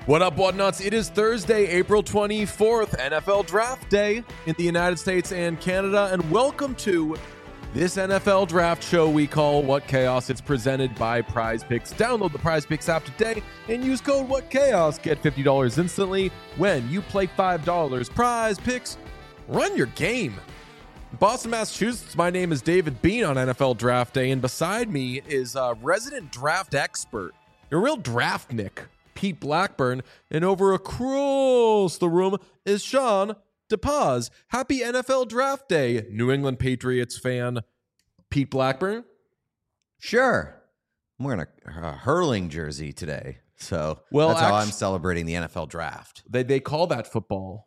What up, Whatnuts? It is Thursday, April 24th, NFL Draft Day in the United States and Canada, and welcome to this NFL Draft show we call What Chaos. It's presented by Prize Picks. Download the Prize Picks app today and use code What Chaos. Get $50 instantly when you play $5. Prize Picks, run your game. Boston, Massachusetts, my name is David Bean on NFL Draft Day, and beside me is a resident draft expert, a real draftnik, Pete Blackburn, and over across the room is Sean DePaz. Happy NFL Draft Day, New England Patriots fan, Pete Blackburn. Sure. I'm wearing a hurling jersey today, so that's how I'm celebrating the NFL Draft. They call that football,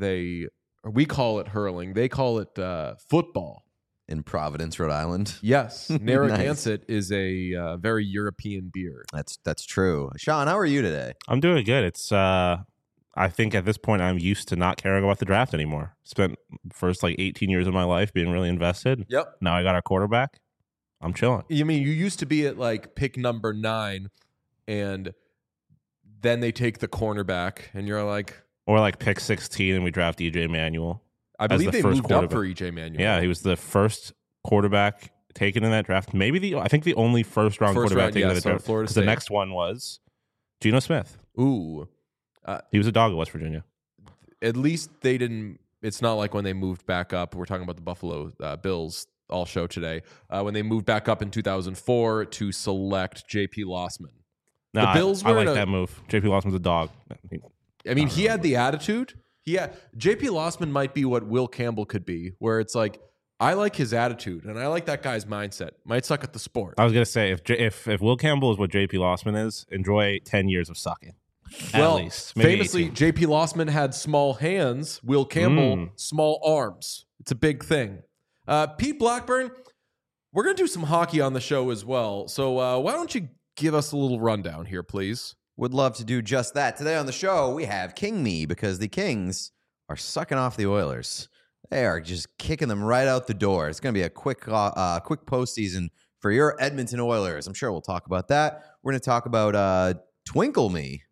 we call it hurling. They call it football. In Providence, Rhode Island. Yes, Narragansett Nice. is a very European beer. That's true. Sean, how are you today? I'm doing good. It's I think at this point I'm used to not caring about the draft anymore. Spent the first 18 years of my life being really invested. Yep. Now I got our quarterback. I'm chilling. You mean you used to be at pick number 9, and then they take the cornerback, and you're like, Or pick 16 and we draft EJ Manuel. I believe they moved up for EJ Manuel. Yeah, he was the first quarterback taken in that draft. I think the only first round quarterback taken in the draft. Florida Because State. the next one was Geno Smith. Ooh. He was a dog at West Virginia. At least they didn't. It's not like when they moved back up. We're talking about the Buffalo Bills all show today. When they moved back up in 2004 to select J.P. Lossman. No, The Bills I were like in a- that move. JP Lossman's a dog. I mean, he had the attitude. J.P. Lossman might be what Will Campbell could be, where it's I like his attitude, and I like that guy's mindset. Might suck at the sport. I was gonna say if Will Campbell is what JP Lossman is, enjoy 10 years of sucking. Well, At least. Maybe famously, 18. J.P. Lossman had small hands. Will Campbell, small arms. It's a big thing. Pete Blackburn, we're going to do some hockey on the show as well. So why don't you give us a little rundown here, please? Would love to do just that. Today on the show, we have King Me because the Kings are sucking off the Oilers. They are just kicking them right out the door. It's going to be a quick postseason for your Edmonton Oilers. I'm sure we'll talk about that. We're going to talk about Twinkle Me.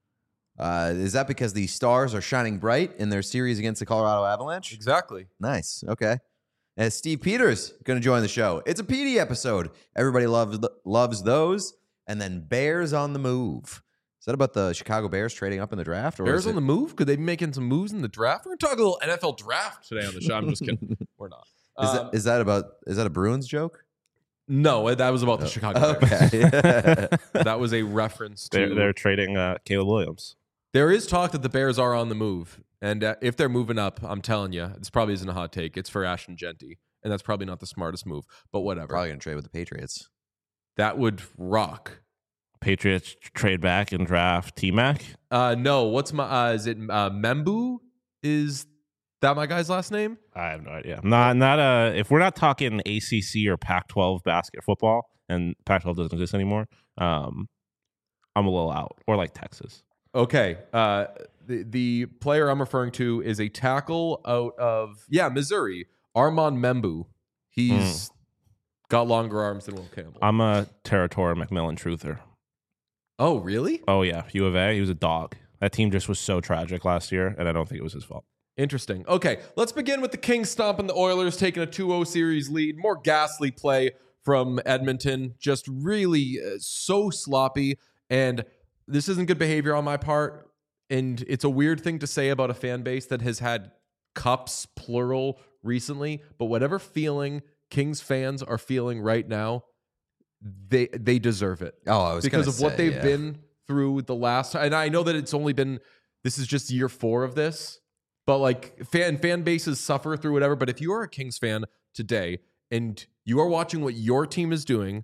Is that because the Stars are shining bright in their series against the Colorado Avalanche? Exactly. Nice. Okay. And Steve Peters going to join the show. It's a PD episode. Everybody loves those. And then Bears on the move. Is that about the Chicago Bears trading up in the draft? Or Bears on the move? Could they be making some moves in the draft? We're going to talk a little NFL draft today on the show. I'm just kidding. We're not. Is that a Bruins joke? No, that was about the Chicago Bears. Okay. That was a reference to... They're trading Caleb Williams. There is talk that the Bears are on the move. And if they're moving up, I'm telling you, this probably isn't a hot take. It's for Ashton Genty. And that's probably not the smartest move. But whatever. Probably going to trade with the Patriots. That would rock. Patriots trade back and draft T-Mac. No, what's my... is it Membu? Is that my guy's last name? I have no idea. Not if we're not talking ACC or Pac-12 basket football, and Pac-12 doesn't exist anymore, I'm a little out. Or Texas. Okay. The player I'm referring to is a tackle out of Missouri, Armand Membu. He's got longer arms than Will Campbell. I'm a Territorial McMillan truther. Oh, really? Oh, yeah. U of A. He was a dog. That team just was so tragic last year, and I don't think it was his fault. Interesting. Okay, let's begin with the Kings stomping the Oilers, taking a 2-0 series lead. More ghastly play from Edmonton. Just really so sloppy. And this isn't good behavior on my part. And it's a weird thing to say about a fan base that has had cups, plural, recently. But whatever feeling Kings fans are feeling right now, they deserve it. Oh, I was because of what they've yeah. been through the last time. And I know that it's only been, this is just year 4 of this, but fan bases suffer through whatever. But if you are a Kings fan today and you are watching what your team is doing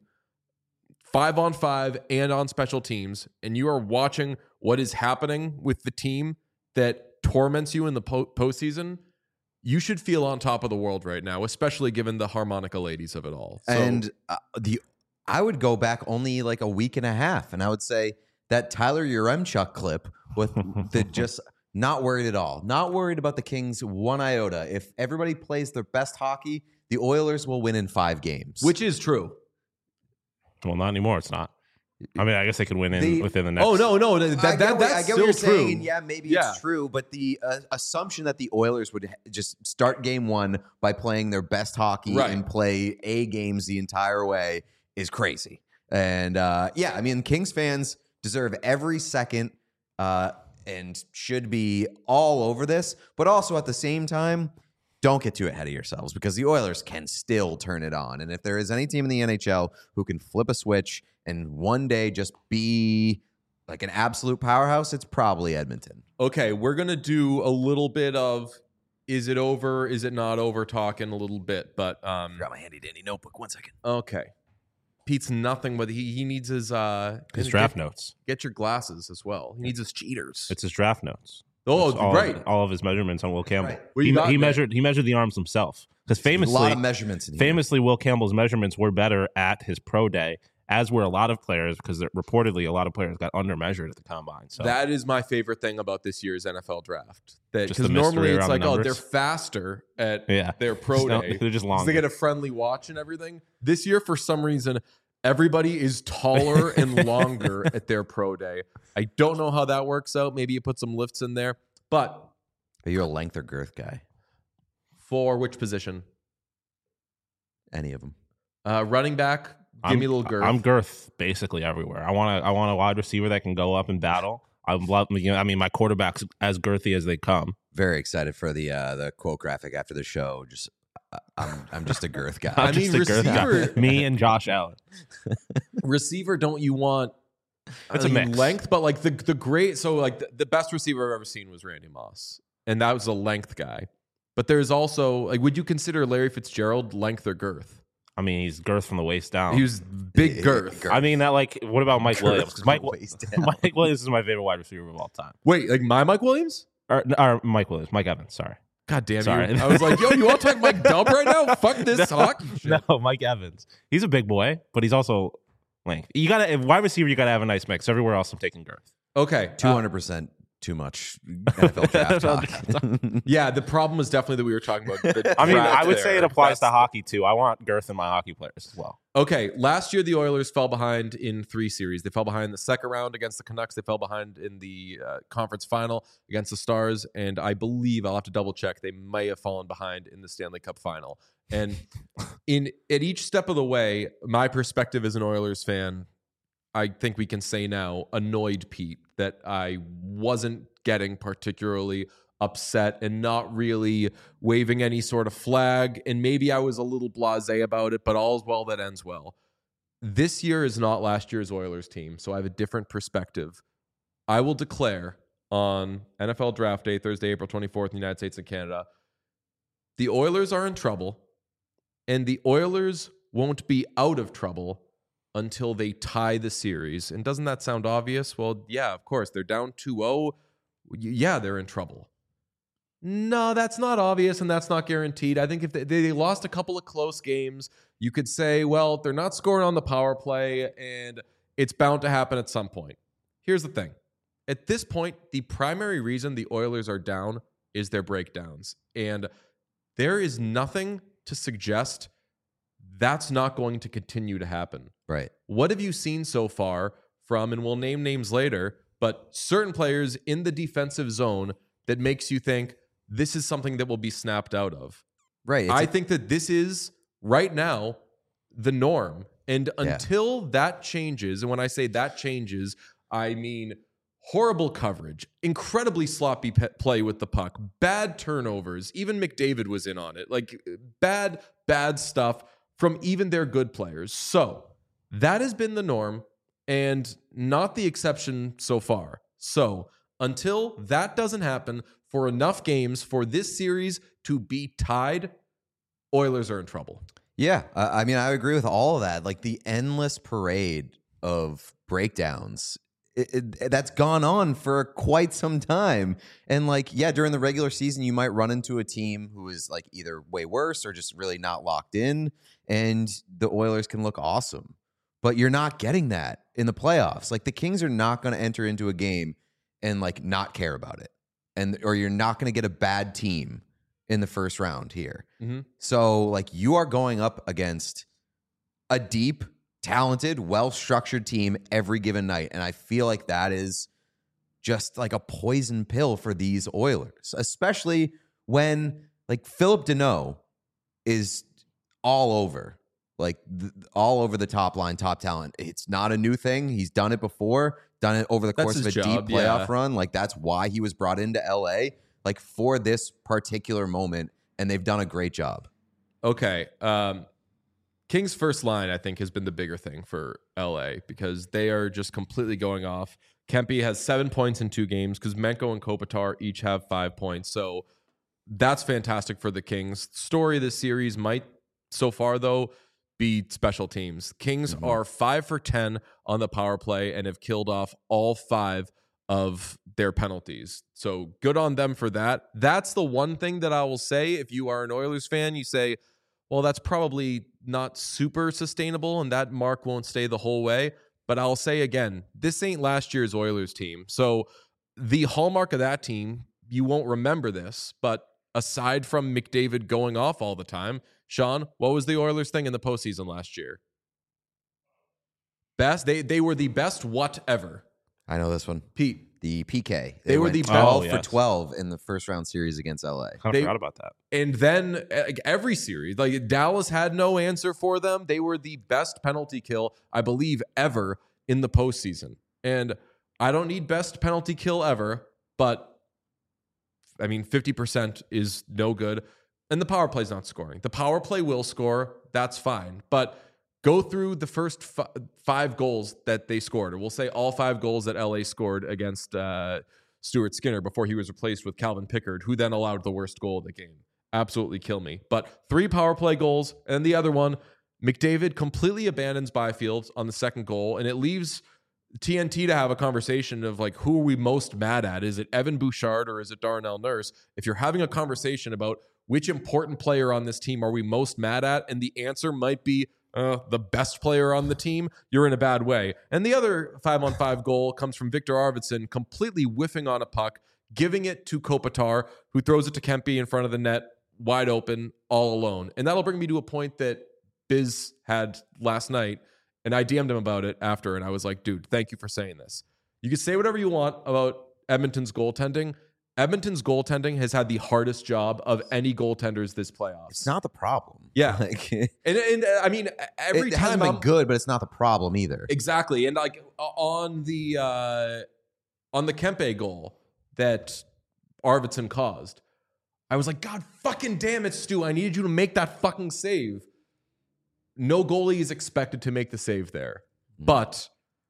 5-on-5 and on special teams, and you are watching what is happening with the team that torments you in the postseason, you should feel on top of the world right now, especially given the harmonica ladies of it all. So, And I would go back only a week and a half, and I would say that Tyler Yaremchuk clip with the just not worried at all. Not worried about the Kings one iota. If everybody plays their best hockey, the Oilers will win in 5 games. which is true. Well, not anymore. It's not. I mean, I guess they could win within the next. Oh no, I that's get what still you're true. saying. Yeah, maybe it's true, but the assumption that the Oilers would just start game one by playing their best hockey and play A games the entire way is crazy. And yeah, I mean, Kings fans deserve every second and should be all over this, but also at the same time, don't get too ahead of yourselves because the Oilers can still turn it on. And if there is any team in the NHL who can flip a switch and one day just be like an absolute powerhouse, it's probably Edmonton. Okay, we're going to do a little bit of is it over, is it not over talk in a little bit. But Got my handy dandy notebook. 1 second. Okay. Pete's nothing but he needs his draft notes. Get your glasses as well. He needs his cheaters. It's his draft notes. Oh, all of his measurements on Will Campbell. Right. He measured the arms himself because famously, a lot of measurements in here. Famously, Will Campbell's measurements were better at his pro day, as were a lot of players because reportedly a lot of players got undermeasured at the combine. So that is my favorite thing about this year's NFL draft. Because normally it's like, they're faster at their pro day. They're just longer. They get a friendly watch and everything. This year, for some reason, everybody is taller and longer at their pro day. I don't know how that works out. Maybe you put some lifts in there. But are you a length or girth guy? For which position? Any of them. Running back, give me a little girth. I'm girth basically everywhere. I want a wide receiver that can go up and battle. I mean, my quarterback's as girthy as they come. Very excited for the quote graphic after the show. Just I'm just a girth guy. I mean, receiver. Me and Josh Allen. Receiver, don't you want? It's a mix. Length, but like the great. So like the best receiver I've ever seen was Randy Moss, and that was a length guy. But there's also like, would you consider Larry Fitzgerald length or girth? I mean, he's girth from the waist down. He was big girth. I mean, what about Mike Williams? Mike Williams is my favorite wide receiver of all time. Wait, like Mike Williams? Or Mike Williams, Mike Evans. Sorry. God damn Sorry. you! I was like, yo, you want to talk Mike Dub right now? Fuck this hockey shit. No, Mike Evans. He's a big boy, but he's also length. You gotta wide receiver. You gotta have a nice mix. Everywhere else, I'm taking girth. Okay, 200% too much NFL draft talk. Yeah, the problem was definitely that we were talking about. I mean, I would say it applies to hockey too. I want girth in my hockey players as well. Okay, last year the Oilers fell behind in 3 series. They fell behind in the second round against the Canucks. They fell behind in the conference final against the Stars. And I believe, I'll have to double check, they may have fallen behind in the Stanley Cup final. And at each step of the way, my perspective as an Oilers fan, I think we can say now, annoyed Pete that I wasn't getting particularly upset and not really waving any sort of flag. And maybe I was a little blasé about it, but all's well that ends well. This year is not last year's Oilers team, so I have a different perspective. I will declare on NFL Draft Day, Thursday, April 24th in the United States and Canada, the Oilers are in trouble, and the Oilers won't be out of trouble until they tie the series. And doesn't that sound obvious? Well, yeah, of course. They're down 2-0. Yeah, they're in trouble. No, that's not obvious, and that's not guaranteed. I think if they lost a couple of close games, you could say, well, they're not scoring on the power play, and it's bound to happen at some point. Here's the thing. At this point, the primary reason the Oilers are down is their breakdowns. And there is nothing to suggest that's not going to continue to happen. Right. What have you seen so far from, and we'll name names later, but certain players in the defensive zone that makes you think this is something that will be snapped out of? Right. I think that this is, right now, the norm. And until that changes, and when I say that changes, I mean horrible coverage, incredibly sloppy play with the puck, bad turnovers. Even McDavid was in on it. Like, bad stuff from even their good players. So that has been the norm and not the exception so far. So until that doesn't happen for enough games for this series to be tied, Oilers are in trouble. Yeah, I mean, I agree with all of that. Like the endless parade of breakdowns, that's gone on for quite some time. And like, yeah, during the regular season, you might run into a team who is like either way worse or just really not locked in, and the Oilers can look awesome. But you're not getting that in the playoffs. Like the Kings are not going to enter into a game and like not care about it, or you're not going to get a bad team in the first round here. Mm-hmm. So like you are going up against a deep talented, well-structured team every given night. And I feel like that is just like a poison pill for these Oilers, especially when like Philip Deneau is all over, like all over the top line, top talent. It's not a new thing. He's done it before, done it over the course of a deep playoff run. Like that's why he was brought into LA, like for this particular moment. And they've done a great job. Okay. Kings' first line, I think, has been the bigger thing for LA because they are just completely going off. Kempe has 7 points in 2 games because Menko and Kopitar each have 5 points. So that's fantastic for the Kings. Story of this series might, so far, though, be special teams. Kings are 5 for 10 on the power play and have killed off all 5 of their penalties. So good on them for that. That's the one thing that I will say. If you are an Oilers fan, you say, well, that's probably not super sustainable and that mark won't stay the whole way. But I'll say again, this ain't last year's Oilers team. So the hallmark of that team, you won't remember this, but aside from McDavid going off all the time, Sean, what was the Oilers thing in the postseason last year? Best? They were the best what ever. I know this one. Pete. The PK. They were the 12 for 12 in the first round series against LA. Kind of forgot about that. And then every series, like Dallas had no answer for them. They were the best penalty kill, I believe, ever in the postseason. And I don't need best penalty kill ever, but I mean, 50% is no good. And the power play's not scoring. The power play will score. That's fine. But go through the first 5 goals that they scored, or we'll say all 5 goals that LA scored against Stuart Skinner before he was replaced with Calvin Pickard, who then allowed the worst goal of the game. Absolutely kill me. But 3 power play goals, and the other one, McDavid completely abandons Byfield on the second goal, and it leaves TNT to have a conversation of like, who are we most mad at? Is it Evan Bouchard or is it Darnell Nurse? If you're having a conversation about which important player on this team are we most mad at, and the answer might be the best player on the team, you're in a bad way. And the other 5-on-5 goal comes from Victor Arvidsson completely whiffing on a puck, giving it to Kopitar, who throws it to Kempe in front of the net, wide open, all alone. And that'll bring me to a point that Biz had last night, and I DM'd him about it after, and I was like, dude, thank you for saying this. You can say whatever you want about Edmonton's goaltending. Edmonton's goaltending has had the hardest job of any goaltenders this playoffs. It's not the problem. Yeah. Like, and I mean, every it time hasn't been good, but it's not the problem either. Exactly. And like on the Kempe goal that Arvidsson caused, I was like, God fucking damn it, Stu. I needed you to make that fucking save. No goalie is expected to make the save there. But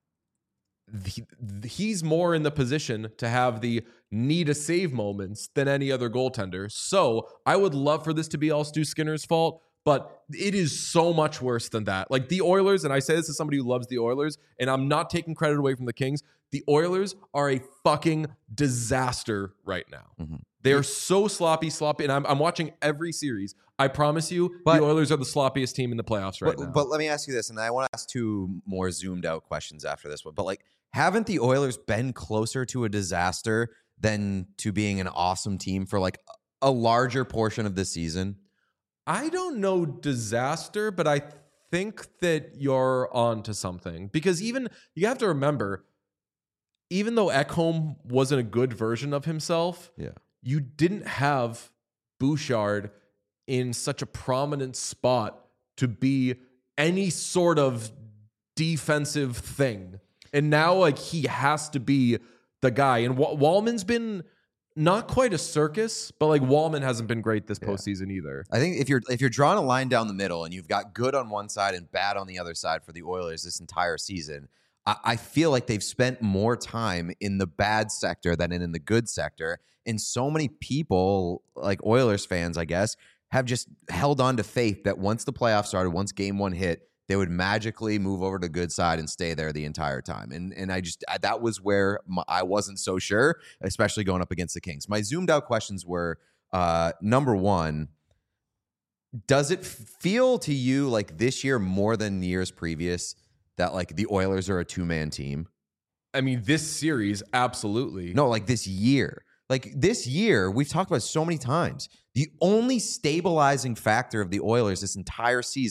he's more in the position to have the need a save moments than any other goaltender. So I would love for this to be all Stu Skinner's fault, but it is so much worse than that. Like the Oilers, and I say this as somebody who loves the Oilers, and I'm not taking credit away from the Kings. The Oilers are a fucking disaster right now. They are so sloppy, and I'm watching every series. I promise you, the Oilers are the sloppiest team in the playoffs right now. But let me ask you this, and I want to ask 2 more zoomed out questions after this one. But like, haven't the Oilers been closer to a disaster than to being an awesome team for like a larger portion of the season? I don't know disaster, but I think that you're on to something. Because even, you have to remember, even though Ekholm wasn't a good version of himself, you didn't have Bouchard in such a prominent spot to be any sort of defensive thing. And now, like, he has to be the guy. And Wallman's been not quite a circus, but like Wallman hasn't been great this postseason either. I think if you're drawing a line down the middle and you've got good on one side and bad on the other side for the Oilers this entire season, I feel like they've spent more time in the bad sector than in the good sector. And so many people, like Oilers fans, I guess, have just held on to faith that once the playoffs started, once game 1 hit, they would magically move over to the good side and stay there the entire time. And that was where I wasn't so sure, especially going up against the Kings. My zoomed out questions were, number 1, does it feel to you like this year more than years previous that like the Oilers are a 2-man team? I mean, this series, absolutely. No, like this year. Like this year, we've talked about it so many times. The only stabilizing factor of the Oilers this entire season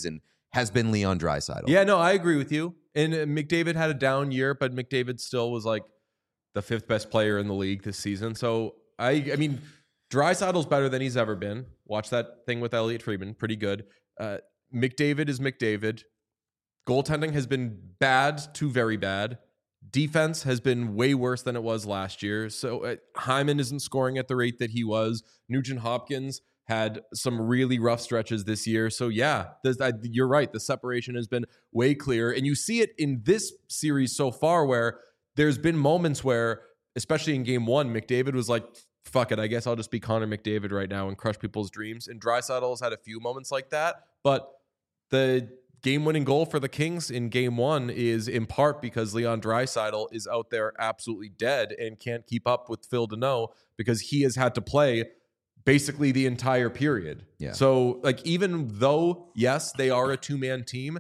has been Leon Draisaitl. Yeah, no, I agree with you. And McDavid had a down year, but McDavid still was like the 5th best player in the league this season. So I mean, Draisaitl's better than he's ever been. Watch that thing with Elliot Friedman, pretty good. McDavid is McDavid. Goaltending has been bad to very bad. Defense has been way worse than it was last year. So Hyman isn't scoring at the rate that he was. Nugent Hopkins had some really rough stretches this year. So yeah, you're right. The separation has been way clearer. And you see it in this series so far where there's been moments where, especially in game 1, McDavid was like, fuck it, I guess I'll just be Connor McDavid right now and crush people's dreams. And Draisaitl has had a few moments like that. But the game-winning goal for the Kings in game 1 is in part because Leon Draisaitl is out there absolutely dead and can't keep up with Phil Deneau because he has had to play basically the entire period. Yeah. So, like, even though, yes, they are a 2-man team,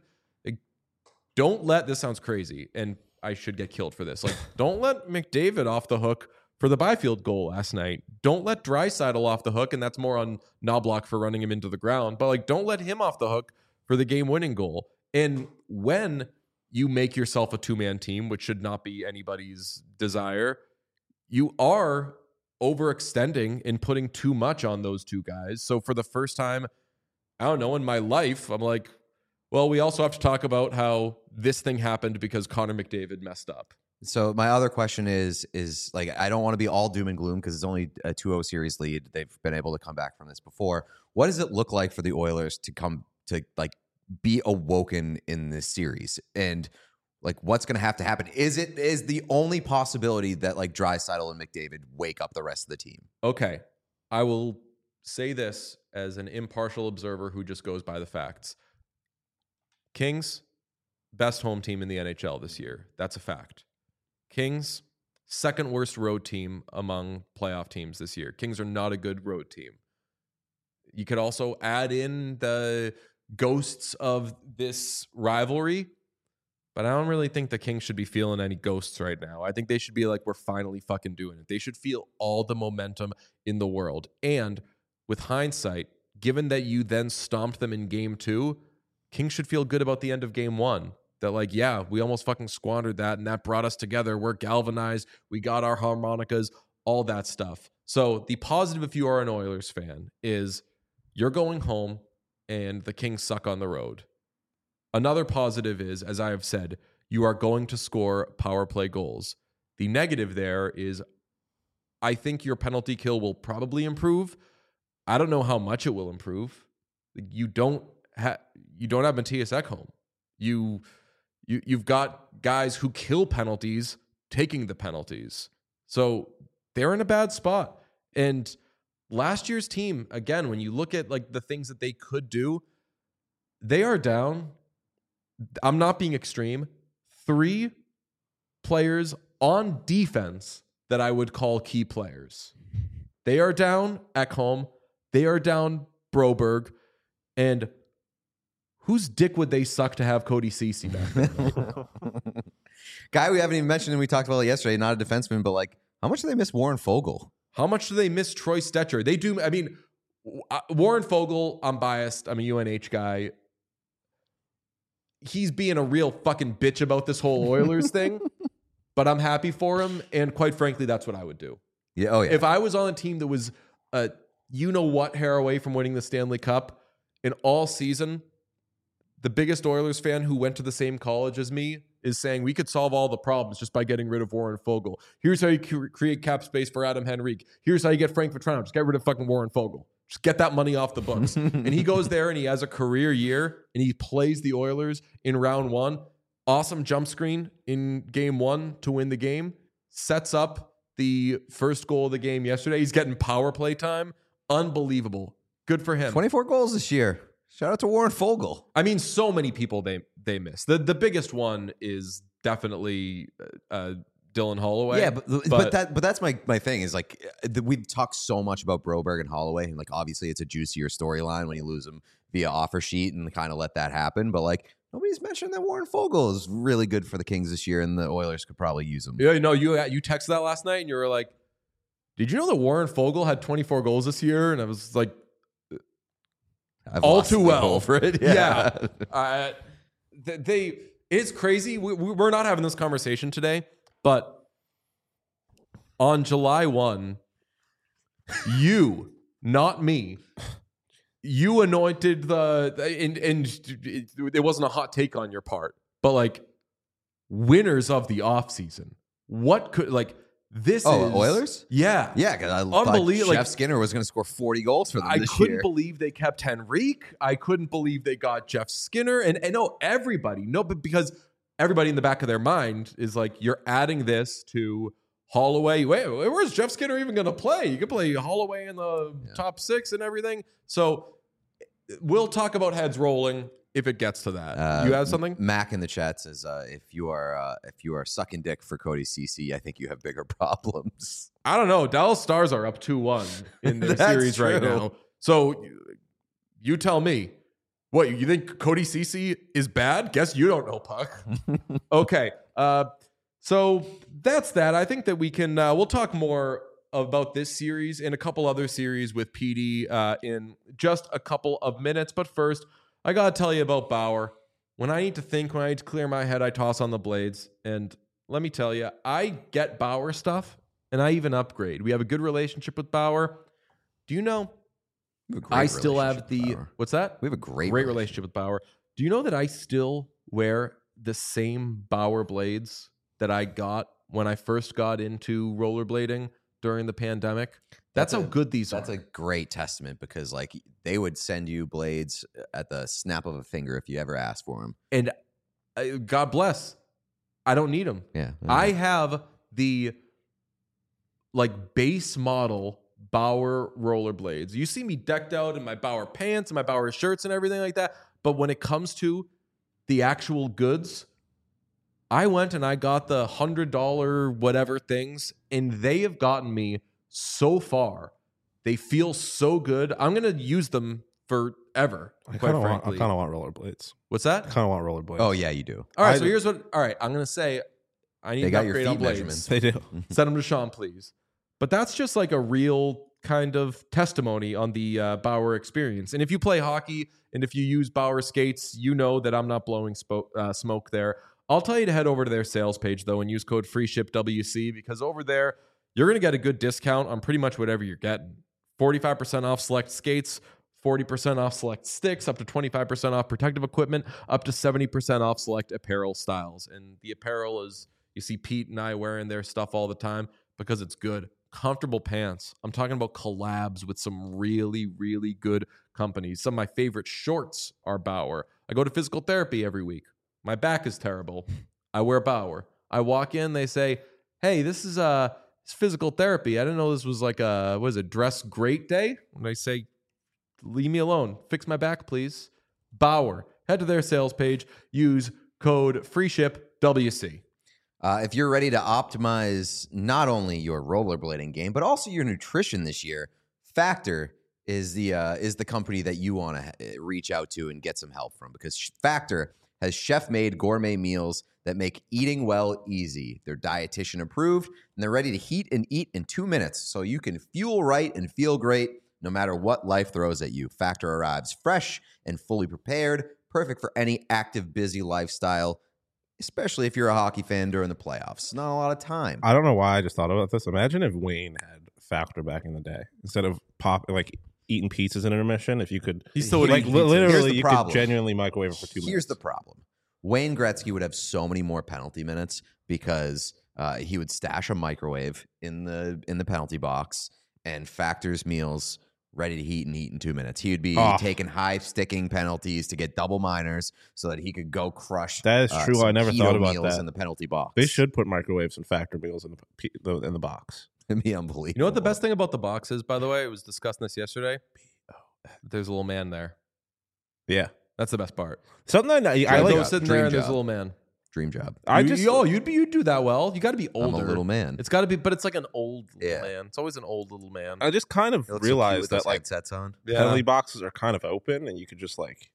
don't let, this sounds crazy, and I should get killed for this, like, don't let McDavid off the hook for the Byfield goal last night. Don't let Draisaitl off the hook, and that's more on Knoblauch for running him into the ground, but, like, don't let him off the hook for the game-winning goal. And when you make yourself a 2-man team, which should not be anybody's desire, you are overextending and putting too much on those two guys. So for the first time, I don't know, in my life, I'm like, well, we also have to talk about how this thing happened because Connor McDavid messed up. So my other question is like, I don't want to be all doom and gloom because it's only a 2-0 series lead. They've been able to come back from this before. What does it look like for the Oilers to come to like be awoken in this series? And like, what's going to happen? Is the only possibility that like Draisaitl and McDavid wake up the rest of the team? Okay. I will say this as an impartial observer who just goes by the facts. Kings, best home team in the NHL this year. That's a fact. Kings, second worst road team among playoff teams this year. Kings are not a good road team. You could also add in the ghosts of this rivalry, but I don't really think the Kings should be feeling any ghosts right now. I think they should be like, we're finally fucking doing it. They should feel all the momentum in the world. And with hindsight, given that you then stomped them in game 2, Kings should feel good about the end of game 1. That like, yeah, we almost fucking squandered that and that brought us together. We're galvanized. We got our harmonicas, all that stuff. So the positive, if you are an Oilers fan, is you're going home and the Kings suck on the road. Another positive is, as I have said, you are going to score power play goals. The negative there is I think your penalty kill will probably improve. I don't know how much it will improve. You don't have Matthias Ekholm. You've got guys who kill penalties taking the penalties. So they're in a bad spot. And last year's team, again, when you look at like the things that they could do, they are down. I'm not being extreme. 3 players on defense that I would call key players. They are down Ekholm. They are down Broberg. And whose dick would they suck to have Cody Ceci back there? Guy we haven't even mentioned, and we talked about it yesterday, not a defenseman, but like, how much do they miss Warren Fogle? How much do they miss Troy Stetcher? They do. I mean, Warren Fogle, I'm biased. I'm a UNH guy. He's being a real fucking bitch about this whole Oilers thing, but I'm happy for him. And quite frankly, that's what I would do. Yeah. Oh, yeah. If I was on a team that was, hair away from winning the Stanley Cup in all season, the biggest Oilers fan who went to the same college as me is saying we could solve all the problems just by getting rid of Warren Fogle. Here's how you create cap space for Adam Henrique. Here's how you get Frank Vatrano. Just get rid of fucking Warren Fogle. Just get that money off the books. And he goes there and he has a career year and he plays the Oilers in round 1. Awesome jump screen in game 1 to win the game. Sets up the first goal of the game yesterday. He's getting power play time. Unbelievable. Good for him. 24 goals this year. Shout out to Warren Fogle. I mean, so many people they miss. The biggest one is definitely Dylan Holloway. Yeah, but that's my thing is like we've talked so much about Broberg and Holloway, and like obviously it's a juicier storyline when you lose them via offer sheet and kind of let that happen. But like nobody's mentioned that Warren Fogle is really good for the Kings this year, and the Oilers could probably use him. Yeah, no, you texted that last night, and you were like, "Did you know that Warren Fogle had 24 goals this year?" And I was like, I've all lost too the well goal for it. Yeah. It's crazy. We're not having this conversation today, but on July 1, you, not me, you anointed and it wasn't a hot take on your part, but like winners of the offseason. What could this is Oilers? Yeah. Yeah, because I Unbelievable. thought Jeff Skinner was going to score 40 goals for them I this couldn't year. believe they kept Henrique. I couldn't believe they got Jeff Skinner. And no, everybody. No, but because everybody in the back of their mind is like, you're adding this to Holloway. Wait, where's Jeff Skinner even going to play? You could play Holloway in the top 6 and everything. So we'll talk about heads rolling if it gets to that. You have something? Mac in the chat says, if you are sucking dick for Cody Ceci, I think you have bigger problems. I don't know. Dallas Stars are up 2-1 in their That's series right true. now. So you tell me. What, you think Cody Ceci is bad? Guess you don't know, Puck. Okay. So that's that. I think that we can, we'll talk more about this series and a couple other series with PD in just a couple of minutes. But first, I got to tell you about Bauer. When I need to think, when I need to clear my head, I toss on the blades. And let me tell you, I get Bauer stuff and I even upgrade. We have a good relationship with Bauer. Do you know? I still have the, what's that? We have a great relationship with Bauer. Do you know that I still wear the same Bauer blades that I got when I first got into rollerblading during the pandemic? That's how good these are. That's a great testament because like they would send you blades at the snap of a finger if you ever asked for them. And God bless. I don't need them. Yeah. I have the like base model Bauer rollerblades. You see me decked out in my Bauer pants and my Bauer shirts and everything like that. But when it comes to the actual goods, I went and I got the $100 whatever things, and they have gotten me so far. They feel so good. I'm going to use them forever, quite frankly. I kind of want rollerblades. What's that? I kind of want rollerblades. Oh, yeah, you do. All right, so here's what... All right, I'm going to say I need They to got your upgrade feet on blades. measurements. They do. Send them to Sean, please. But that's just like a real kind of testimony on the Bauer experience. And if you play hockey and if you use Bauer skates, you know that I'm not blowing smoke there. I'll tell you to head over to their sales page, though, and use code FREESHIPWC because over there, you're going to get a good discount on pretty much whatever you're getting. 45% off select skates, 40% off select sticks, up to 25% off protective equipment, up to 70% off select apparel styles. And the apparel is, you see Pete and I wearing their stuff all the time because it's good. Comfortable pants. I'm talking about collabs with some really, really good companies. Some of my favorite shorts are Bauer. I go to physical therapy every week. My back is terrible. I wear Bauer. I walk in, they say, hey, this is physical therapy. I didn't know this was like a dress great day? And I say, leave me alone. Fix my back, please. Bauer. Head to their sales page. Use code FREESHIPWC. If you're ready to optimize not only your rollerblading game, but also your nutrition this year, Factor is the company that you want to reach out to and get some help from because Factor has chef-made gourmet meals that make eating well easy. They're dietitian approved, and they're ready to heat and eat in 2 minutes so you can fuel right and feel great no matter what life throws at you. Factor arrives fresh and fully prepared, perfect for any active, busy lifestyle, especially if you're a hockey fan during the playoffs. Not a lot of time. I don't know why I just thought about this. Imagine if Wayne had Factor back in the day instead of eating pizzas in intermission. If you could, He still would eat pizzas. literally, Here's the you problem. could genuinely microwave it for 2 minutes. Here's the problem. Wayne Gretzky would have so many more penalty minutes because he would stash a microwave in the penalty box and Factor's meals ready to heat and eat in 2 minutes. He would be taking high sticking penalties to get double minors so that he could go crush. That is true. some I never keto thought about meals that. in the penalty box. They should put microwaves and Factor meals in the box. It'd be unbelievable. You know what the best thing about the box is, by the way? I was discussing this yesterday. There's a little man there. Yeah, That's the best part. something that I I like. go sitting there dream and there's a job. little man. Dream job. You'd do that well. You got to be older. I'm a little man. It's got to be, but it's like an old little Yeah. man. It's always an old little man. I just kind of It looks so cute realized with that those like headsets on. penalty boxes are kind of open, and you could just like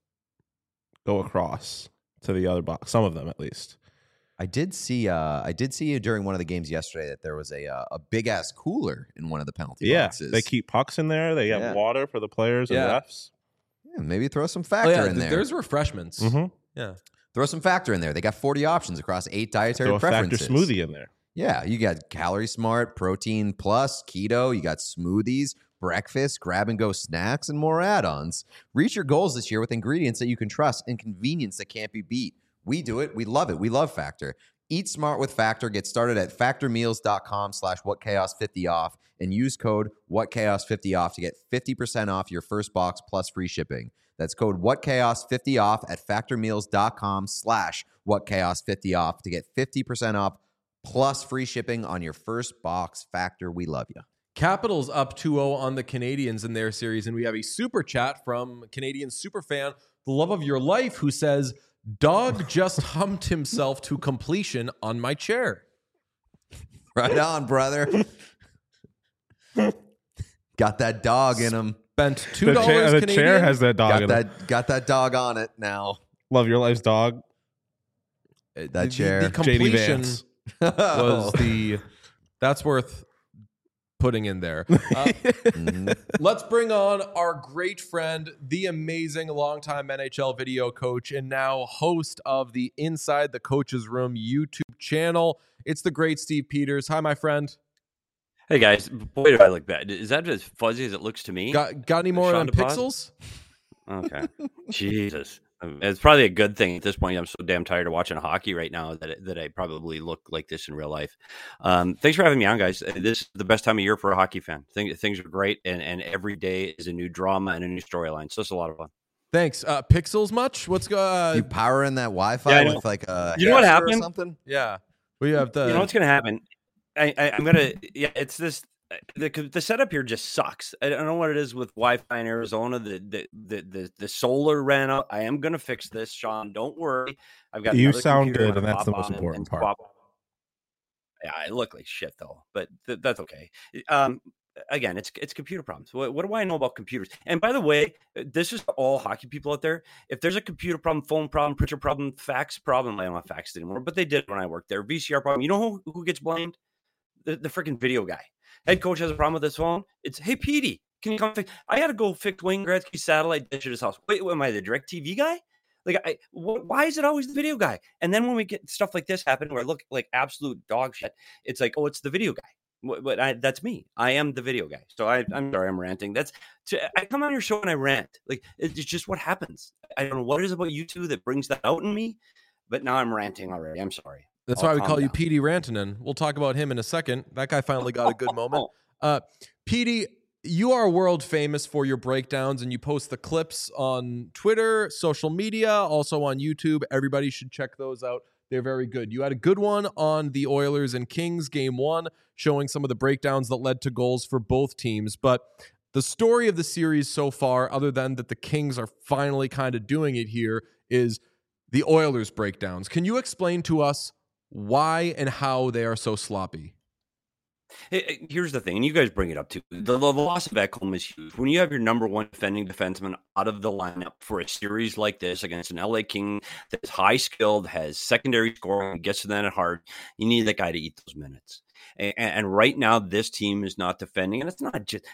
go across to the other box. Some of them, at least. I did see during one of the games yesterday that there was a big ass cooler in one of the penalty Yeah, boxes. they keep pucks in there. They have Yeah. water for the players and Yeah. refs. Yeah, maybe throw some Factor in there. There's refreshments. Mm-hmm. Yeah. Throw some Factor in there. They got 40 options across 8 dietary Throw a preferences. Factor smoothie in there. Yeah, you got Calorie Smart, Protein Plus, Keto. You got smoothies, breakfast, grab-and-go snacks, and more add-ons. Reach your goals this year with ingredients that you can trust and convenience that can't be beat. We do it. We love it. We love Factor. Eat smart with Factor. Get started at factormeals.com/whatchaos50off and use code whatchaos50off to get 50% off your first box plus free shipping. That's code whatchaos50off at factormeals.com/whatchaos50off to get 50% off plus free shipping on your first box. Factor, we love you. Capitals up 2-0 on the Canadians in their series, and we have a super chat from Canadian superfan, the love of your life, who says, "Dog just humped himself to completion on my chair." Right on, brother. Got that dog in him. Spent $2 The Canadian. chair has that dog in it. Got that dog on it now. Love your life's dog. That chair. The JD completion Vance. was that's worth putting in there. Let's bring on our great friend, the amazing longtime NHL video coach and now host of the Inside the Coach's Room YouTube channel. It's the great Steve Peters. Hi, my friend. Hey guys, boy, do I look bad. Is that as fuzzy as it looks to me? Got any more Sean on DePaz? pixels? Okay. Jesus. It's probably a good thing at this point. I'm so damn tired of watching hockey right now that I probably look like this in real life. Thanks for having me on, guys. This is the best time of year for a hockey fan. Things are great, and every day is a new drama and a new storyline. So it's a lot of fun. Thanks. Pixels much? What's You powering that Wi-Fi Yeah, with like a You know what Hexer or happened? something? Yeah. We have the You know what's going to happen? I'm gonna. Yeah, it's this. The setup here just sucks. I don't know what it is with Wi-Fi in Arizona. The solar ran out. I am gonna fix this, Sean. Don't worry. I've got. You another sound computer good, I'm and that's gonna the most pop on important part. swap. Yeah, I look like shit though, but that's okay. Again, it's computer problems. What do I know about computers? And by the way, this is all hockey people out there. If there's a computer problem, phone problem, printer problem, fax problem, I don't have fax anymore, but they did when I worked there. VCR problem. You know who gets blamed? The freaking video guy. Head coach has a problem with his phone. It's, hey, Petey, can you come fix? I had to go fix Wayne Gretzky's satellite dish at his house. Wait, am I the DirecTV guy? Like, why is it always the video guy? And then when we get stuff like this happen, where I look like absolute dog shit, it's like, oh, it's the video guy. But that's me. I am the video guy. So I'm sorry, I'm ranting. I come on your show and I rant. Like, it's just what happens. I don't know what it is about you two that brings that out in me, but now I'm ranting already. I'm sorry. That's I'll why we calm call you down. Petey Rantanen. We'll talk about him in a second. That guy finally got a good moment. Petey, you are world famous for your breakdowns, and you post the clips on Twitter, social media, also on YouTube. Everybody should check those out. They're very good. You had a good one on the Oilers and Kings game 1, showing some of the breakdowns that led to goals for both teams. But the story of the series so far, other than that the Kings are finally kind of doing it here, is the Oilers breakdowns. Can you explain to us why and how they are so sloppy? Here's the thing, and you guys bring it up too. The loss of Ekholm is huge. When you have your number one defending defenseman out of the lineup for a series like this against an LA King that's high skilled, has secondary scoring, gets to the net hard, you need that guy to eat those minutes. And right now, this team is not defending, and it's not just.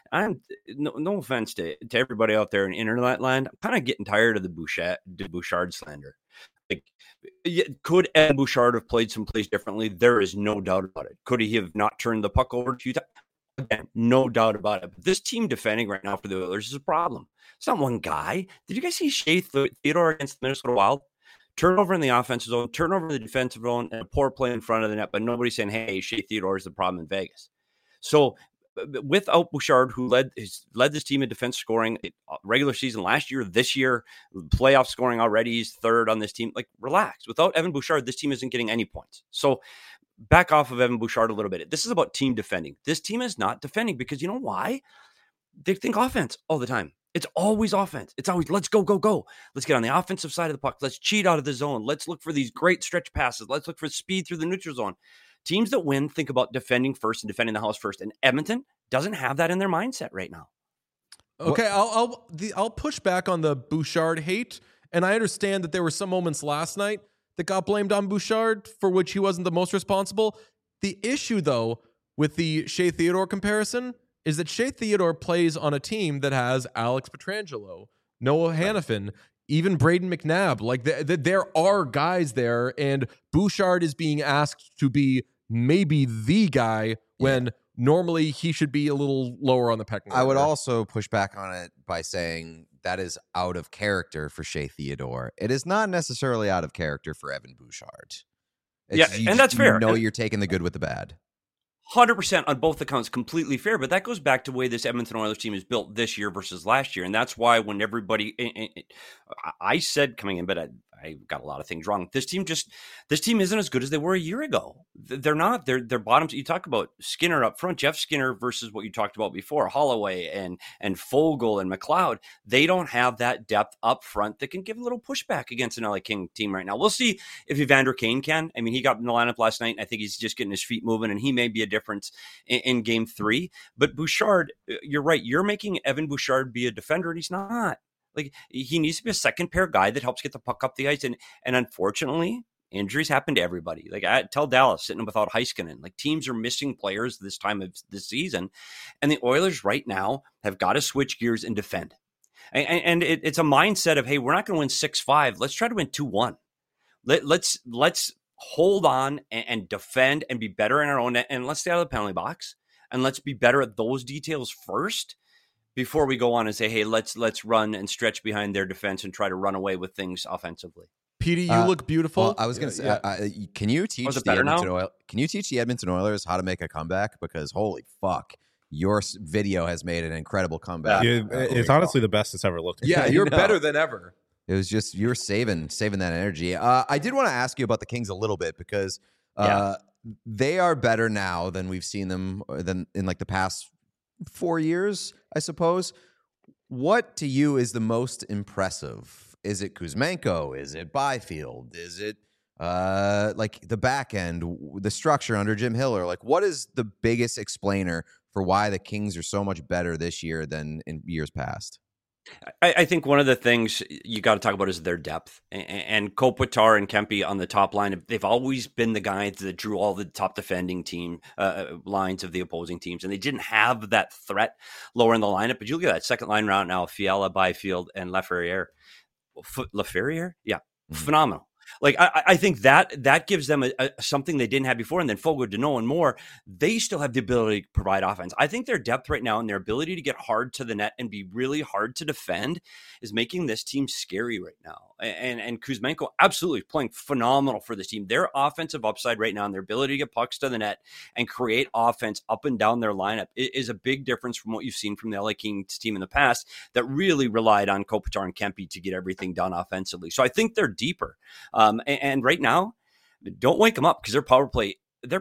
No offense to everybody out there in internet land. I'm kind of getting tired of the Bouchard slander. Like, could Evan Bouchard have played some plays differently? There is no doubt about it. Could he have not turned the puck over a few times? Again, no doubt about it. But this team defending right now for the Oilers is a problem. It's not one guy. Did you guys see Shea Theodore against the Minnesota Wild? Turnover in the offensive zone, turnover in the defensive zone, and a poor play in front of the net, but nobody's saying, hey, Shea Theodore is the problem in Vegas. So without Bouchard, who led this team in defense scoring regular season last year, this year, playoff scoring already, he's third on this team. Like, relax. Without Evan Bouchard, this team isn't getting any points. So back off of Evan Bouchard a little bit. This is about team defending. This team is not defending because you know why? They think offense all the time. It's always offense. It's always, let's go, go, go. Let's get on the offensive side of the puck. Let's cheat out of the zone. Let's look for these great stretch passes. Let's look for speed through the neutral zone. Teams that win think about defending first and defending the house first. And Edmonton doesn't have that in their mindset right now. Okay, I'll push back on the Bouchard hate. And I understand that there were some moments last night that got blamed on Bouchard for which he wasn't the most responsible. The issue, though, with the Shea Theodore comparison is that Shea Theodore plays on a team that has Alex Pietrangelo, Noah Hannafin, even Braden McNabb. Like there are guys there, and Bouchard is being asked to be maybe the guy when normally he should be a little lower on the pecking order. I would also push back on it by saying that is out of character for Shea Theodore. It is not necessarily out of character for Evan Bouchard. And that's fair. You know, you're taking the good with the bad. 100% on both accounts, completely fair. But that goes back to the way this Edmonton Oilers team is built this year versus last year. And that's why when everybody, I said coming in, but I got a lot of things wrong. This team isn't as good as they were a year ago. They're not. They're bottoms. You talk about Skinner up front, Jeff Skinner versus what you talked about before, Holloway and Fogle and McLeod. They don't have that depth up front that can give a little pushback against an LA King team right now. We'll see if Evander Kane can. I mean, he got in the lineup last night, and I think he's just getting his feet moving, and he may be a difference in game 3. But Bouchard, you're right. You're making Evan Bouchard be a defender, and he's not. Like, he needs to be a second pair guy that helps get the puck up the ice. And unfortunately, injuries happen to everybody. Like, I tell Dallas sitting without Heiskanen, like, teams are missing players this time of the season. And the Oilers right now have got to switch gears and defend. And it's a mindset of, hey, we're not going to win 6-5. Let's try to win 2-1. Let's hold on and defend and be better in our own net. And let's stay out of the penalty box. And let's be better at those details first, before we go on and say, hey, let's run and stretch behind their defense and try to run away with things offensively. Petey, you look beautiful. Well, I was going to say, can you teach the Edmonton Oilers how to make a comeback? Because holy fuck, your video has made an incredible comeback. It's honestly the best it's ever looked. Yeah, you're better than ever. It was just, you're saving that energy. I did want to ask you about the Kings a little bit because they are better now than we've seen them than in like the past 4 years, I suppose. What to you is the most impressive? Is it Kuzmenko? Is it Byfield? Is it like the back end, the structure under Jim Hiller? Like, what is the biggest explainer for why the Kings are so much better this year than in years past? I think one of the things you got to talk about is their depth. And Kopitar and Kempe on the top line, they've always been the guys that drew all the top defending team lines of the opposing teams. And they didn't have that threat lower in the lineup. But you look at that second line round now, Fiala, Byfield, and Laferriere. Laferriere? Yeah, phenomenal. Like, I think that gives them something they didn't have before. And then Fogo, Deneau, and more, they still have the ability to provide offense. I think their depth right now and their ability to get hard to the net and be really hard to defend is making this team scary right now. And Kuzmenko absolutely playing phenomenal for this team. Their offensive upside right now and their ability to get pucks to the net and create offense up and down their lineup is a big difference from what you've seen from the LA Kings team in the past that really relied on Kopitar and Kempe to get everything done offensively. So I think they're deeper. And right now, don't wake them up because their power play is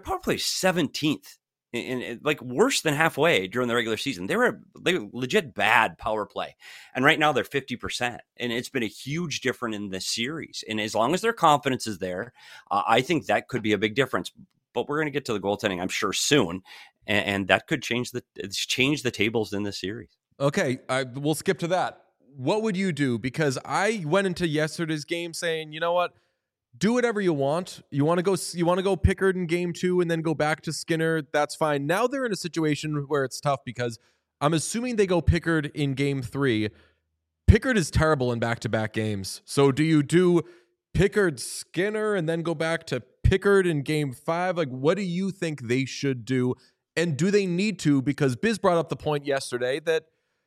17th. And like worse than halfway during the regular season. They were legit bad power play. And right now they're 50%. And it's been a huge difference in this series. And as long as their confidence is there, I think that could be a big difference. But we're going to get to the goaltending, I'm sure, soon. And that could change the tables in this series. Okay, we'll skip to that. What would you do? Because I went into yesterday's game saying, you know what? Do whatever you want. You want to go Pickard in game 2 and then go back to Skinner. That's fine. Now they're in a situation where it's tough because I'm assuming they go Pickard in game 3. Pickard is terrible in back-to-back games. So do you do Pickard, Skinner, and then go back to Pickard in game 5? Like, what do you think they should do? And do they need to? Because Biz brought up the point yesterday that,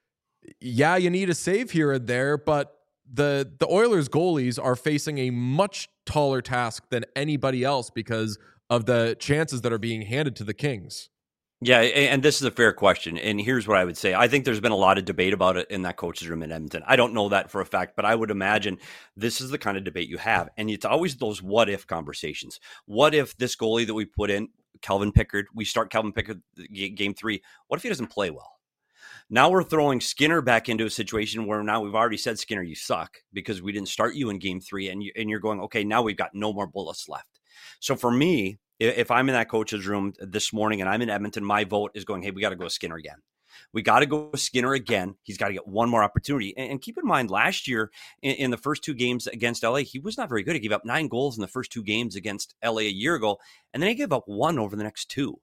yeah, you need a save here and there, but the Oilers goalies are facing a much taller task than anybody else because of the chances that are being handed to the Kings. Yeah, and this is a fair question. And here's what I would say. I think there's been a lot of debate about it in that coach's room in Edmonton. I don't know that for a fact, but I would imagine this is the kind of debate you have. And it's always those what-if conversations. What if this goalie that we put in, Calvin Pickard, we start Calvin Pickard game 3, what if he doesn't play well? Now we're throwing Skinner back into a situation where now we've already said, Skinner, you suck because we didn't start you in game 3. And you're going, okay, now we've got no more bullets left. So for me, if I'm in that coach's room this morning and I'm in Edmonton, my vote is going, hey, we got to go Skinner again. We got to go Skinner again. He's got to get one more opportunity. And keep in mind, last year in the first 2 games against LA, he was not very good. He gave up 9 goals in the first 2 games against LA a year ago. And then he gave up 1 over the next 2.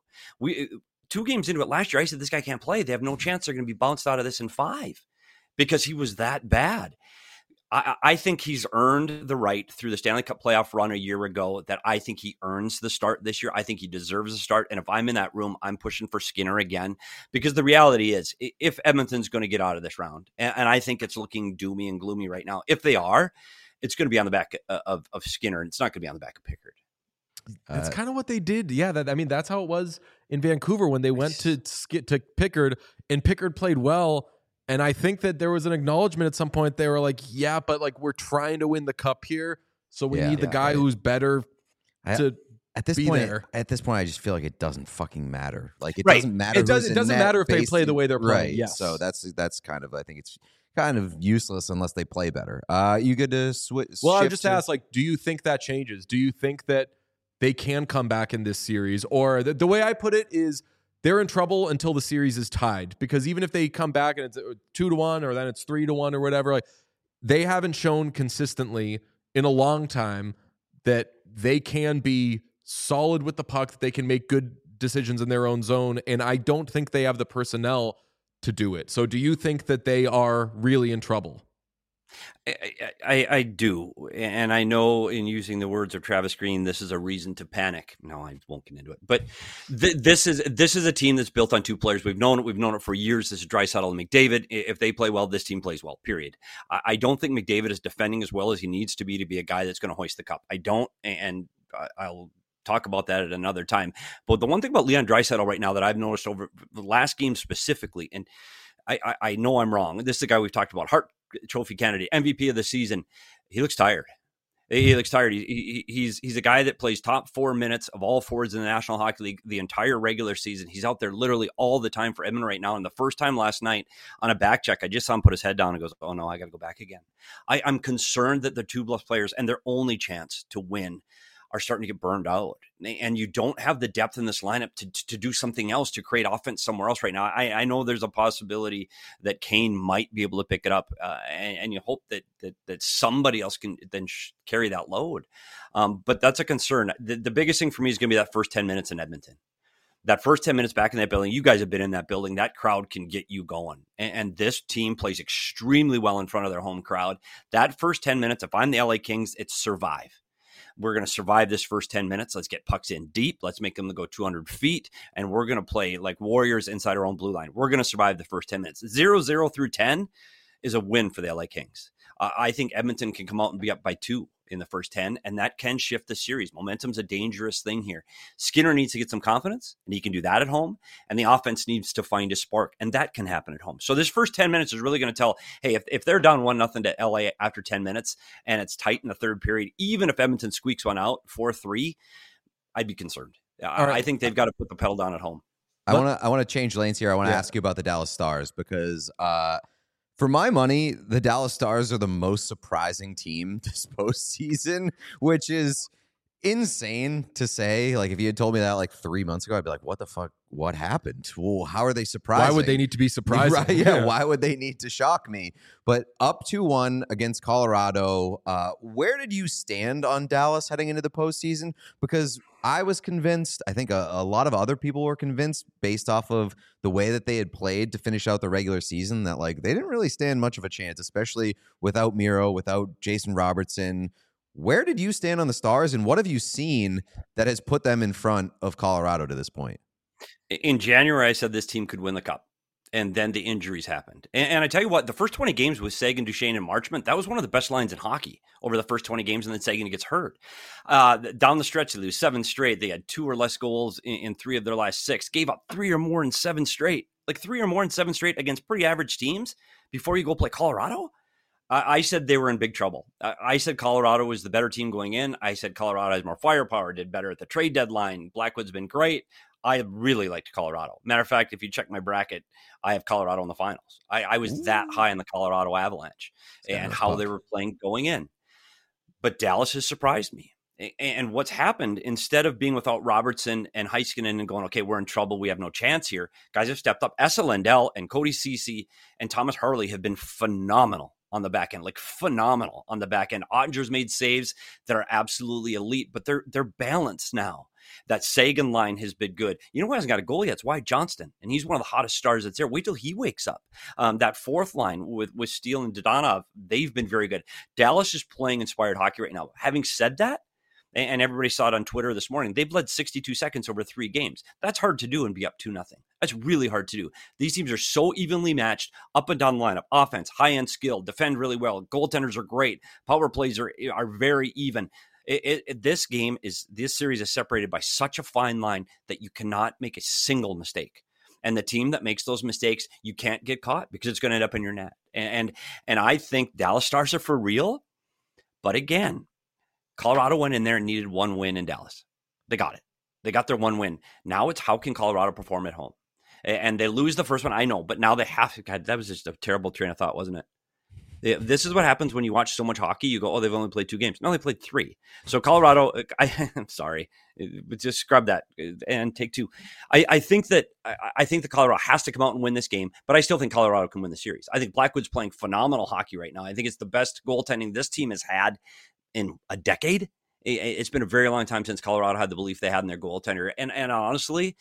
2 games into it last year, I said, this guy can't play. They have no chance they're going to be bounced out of this in 5 because he was that bad. I think he's earned the right through the Stanley Cup playoff run a year ago that I think he earns the start this year. I think he deserves a start. And if I'm in that room, I'm pushing for Skinner again, because the reality is if Edmonton's going to get out of this round, and I think it's looking doomy and gloomy right now, if they are, it's going to be on the back of Skinner, and it's not going to be on the back of Pickard. That's kind of what they did. Yeah, that's how it was in Vancouver when they went to Pickard, and Pickard played well. And I think that there was an acknowledgement at some point. They were like, yeah, but like we're trying to win the cup here, so we need the guy who's better to at this be point. there. At this point, I just feel like it doesn't fucking matter. Like it Right. doesn't matter. It doesn't matter if they play the way they're playing. Right. Yes. So that's kind of, I think it's kind of useless unless they play better. You get to switch. Well, I just asked, like, do you think that changes? Do you think that they can come back in this series? Or the way I put it is they're in trouble until the series is tied, because even if they come back and it's 2-1 or then it's 3-1 or whatever, like they haven't shown consistently in a long time that they can be solid with the puck, that they can make good decisions in their own zone. And I don't think they have the personnel to do it. So do you think that they are really in trouble? I do. And I know, in using the words of Travis Green, this is a reason to panic. No, I won't get into it. But this is a team that's built on two players. We've known it for years. This is Draisaitl and McDavid. If they play well, this team plays well, period. I don't think McDavid is defending as well as he needs to be a guy that's going to hoist the cup. I don't. And I'll talk about that at another time. But the one thing about Leon Draisaitl right now that I've noticed over the last game specifically, and I know I'm wrong. This is the guy we've talked about, Hart Trophy candidate, MVP of the season. He looks tired. He looks tired. He's a guy that plays top 4 minutes of all forwards in the National Hockey League the entire regular season. He's out there literally all the time for Edmonton right now. And the first time last night on a back check, I just saw him put his head down and goes, oh no, I got to go back again. I'm concerned that the two Bluffs players and their only chance to win are starting to get burned out. And you don't have the depth in this lineup to do something else, to create offense somewhere else right now. I know there's a possibility that Kane might be able to pick it up, and you hope that somebody else can then carry that load. But that's a concern. The biggest thing for me is going to be that first 10 minutes in Edmonton. That first 10 minutes back in that building, you guys have been in that building, that crowd can get you going. And this team plays extremely well in front of their home crowd. That first 10 minutes, if I'm the LA Kings, it's survive. We're going to survive this first 10 minutes. Let's get pucks in deep. Let's make them go 200 feet. And we're going to play like warriors inside our own blue line. We're going to survive the first 10 minutes. 0-0 through 10 is a win for the LA Kings. I think Edmonton can come out and be up by 2 in the first 10, and that can shift the series. Momentum's a dangerous thing here. Skinner needs to get some confidence, and he can do that at home, and the offense needs to find a spark, and that can happen at home. So this first 10 minutes is really going to tell, hey, if they're down 1-0 to LA after 10 minutes, and it's tight in the third period, even if Edmonton squeaks one out, 4-3, I'd be concerned. Right. I think they've got to put the pedal down at home. I want to change lanes here. I want to ask you about the Dallas Stars, because for my money, the Dallas Stars are the most surprising team this postseason, which is insane to say. Like, if you had told me that like 3 months ago, I'd be like, what the fuck? What happened? Well, how are they surprising? Why would they need to be surprising? Right, yeah, why would they need to shock me? But up 2-1 against Colorado, where did you stand on Dallas heading into the postseason? Because I was convinced, I think a lot of other people were convinced, based off of the way that they had played to finish out the regular season, that like they didn't really stand much of a chance, especially without Miro, without Jason Robertson. Where did you stand on the Stars, and what have you seen that has put them in front of Colorado to this point? In January, I said this team could win the Cup, and then the injuries happened. And I tell you what, the first 20 games with Seguin, Duchesne, and Marchment, that was one of the best lines in hockey over the first 20 games, and then Seguin gets hurt. Down the stretch, they lose 7 straight. They had 2 or less goals in 3 of their last 6, gave up 3 or more in 7 straight. Like 3 or more in 7 straight against pretty average teams before you go play Colorado? I said they were in big trouble. I said Colorado was the better team going in. I said Colorado has more firepower, did better at the trade deadline. Blackwood's been great. I really liked Colorado. Matter of fact, if you check my bracket, I have Colorado in the finals. I was that high in the Colorado Avalanche and how they were playing going in. But Dallas has surprised me. And what's happened, instead of being without Robertson and Heiskanen and going, okay, we're in trouble, we have no chance here, guys have stepped up. Esa Lindell and Cody Ceci and Thomas Harley have been phenomenal on the back end, like phenomenal on the back end. Ottinger's made saves that are absolutely elite, but they're balanced now. That Sagan line has been good. You know who hasn't got a goal yet? It's Wyatt Johnston, and he's one of the hottest stars that's there. Wait till he wakes up. That fourth line with Steele and Dadonov, they've been very good. Dallas is playing inspired hockey right now. Having said that, and everybody saw it on Twitter this morning, they've led 62 seconds over 3 games. That's hard to do and be up 2-0. That's really hard to do. These teams are so evenly matched up and down the lineup. Offense, high-end skill, defend really well. Goaltenders are great. Power plays are very even. This series is separated by such a fine line that you cannot make a single mistake. And the team that makes those mistakes, you can't get caught because it's going to end up in your net. And I think Dallas Stars are for real. But again, Colorado went in there and needed 1 win in Dallas. They got it. They got their 1 win. Now it's how can Colorado perform at home? And they lose the first one, I know, but now they have to. God, that was just a terrible train of thought, wasn't it? This is what happens when you watch so much hockey. You go, oh, they've only played 2 games. No, they played 3. So Colorado, I'm sorry, but just scrub that and take 2. I think that Colorado has to come out and win this game, but I still think Colorado can win the series. I think Blackwood's playing phenomenal hockey right now. I think it's the best goaltending this team has had in a decade. It's been a very long time since Colorado had the belief they had in their goaltender. And honestly,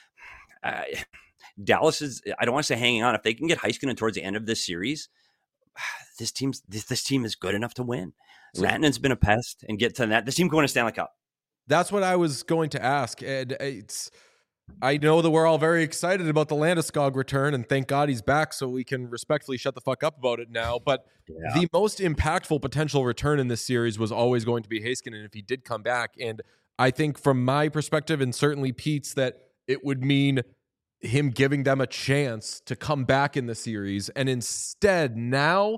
Dallas is, I don't want to say hanging on. If they can get Heiskanen towards the end of this series, this team is good enough to win. Rantanen's been a pest and get to that. This team can win a Stanley Cup. That's what I was going to ask. And I know that we're all very excited about the Landeskog return, and thank God he's back so we can respectfully shut the fuck up about it now. But the most impactful potential return in this series was always going to be Heiskanen if he did come back. And I think from my perspective, and certainly Pete's, that it would mean him giving them a chance to come back in the series. And instead now,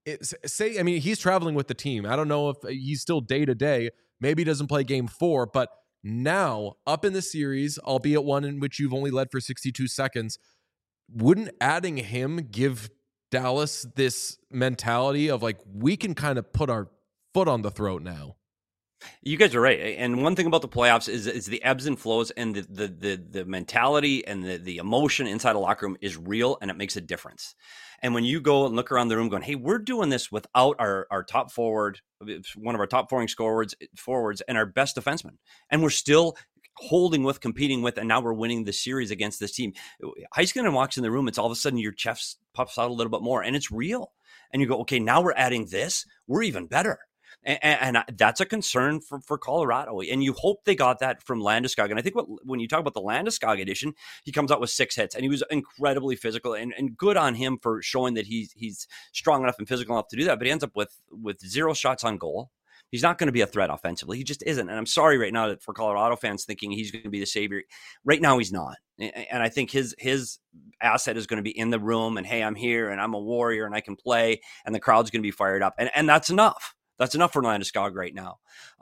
he's traveling with the team. I don't know if he's still day-to-day. Maybe he doesn't play game 4, but now up in the series, albeit one in which you've only led for 62 seconds, wouldn't adding him give Dallas this mentality of like, we can kind of put our foot on the throat now? You guys are right. And one thing about the playoffs is the ebbs and flows, and the mentality and the emotion inside a locker room is real, and it makes a difference. And when you go and look around the room going, hey, we're doing this without our top forward, one of our top forward forwards and our best defenseman, and we're still competing with, and now we're winning the series against this team. Heiskanen walks in the room, it's all of a sudden your chest puffs out a little bit more, and it's real. And you go, okay, now we're adding this. We're even better. And that's a concern for Colorado. And you hope they got that from Landeskog. And I think when you talk about the Landeskog edition, he comes out with 6 hits, and he was incredibly physical, and good on him for showing that he's strong enough and physical enough to do that. But he ends up with 0 shots on goal. He's not going to be a threat offensively. He just isn't. And I'm sorry right now for Colorado fans thinking he's going to be the savior. Right now, he's not. And I think his asset is going to be in the room, and hey, I'm here and I'm a warrior and I can play, and the crowd's going to be fired up. And that's enough. That's enough for Landeskog right now.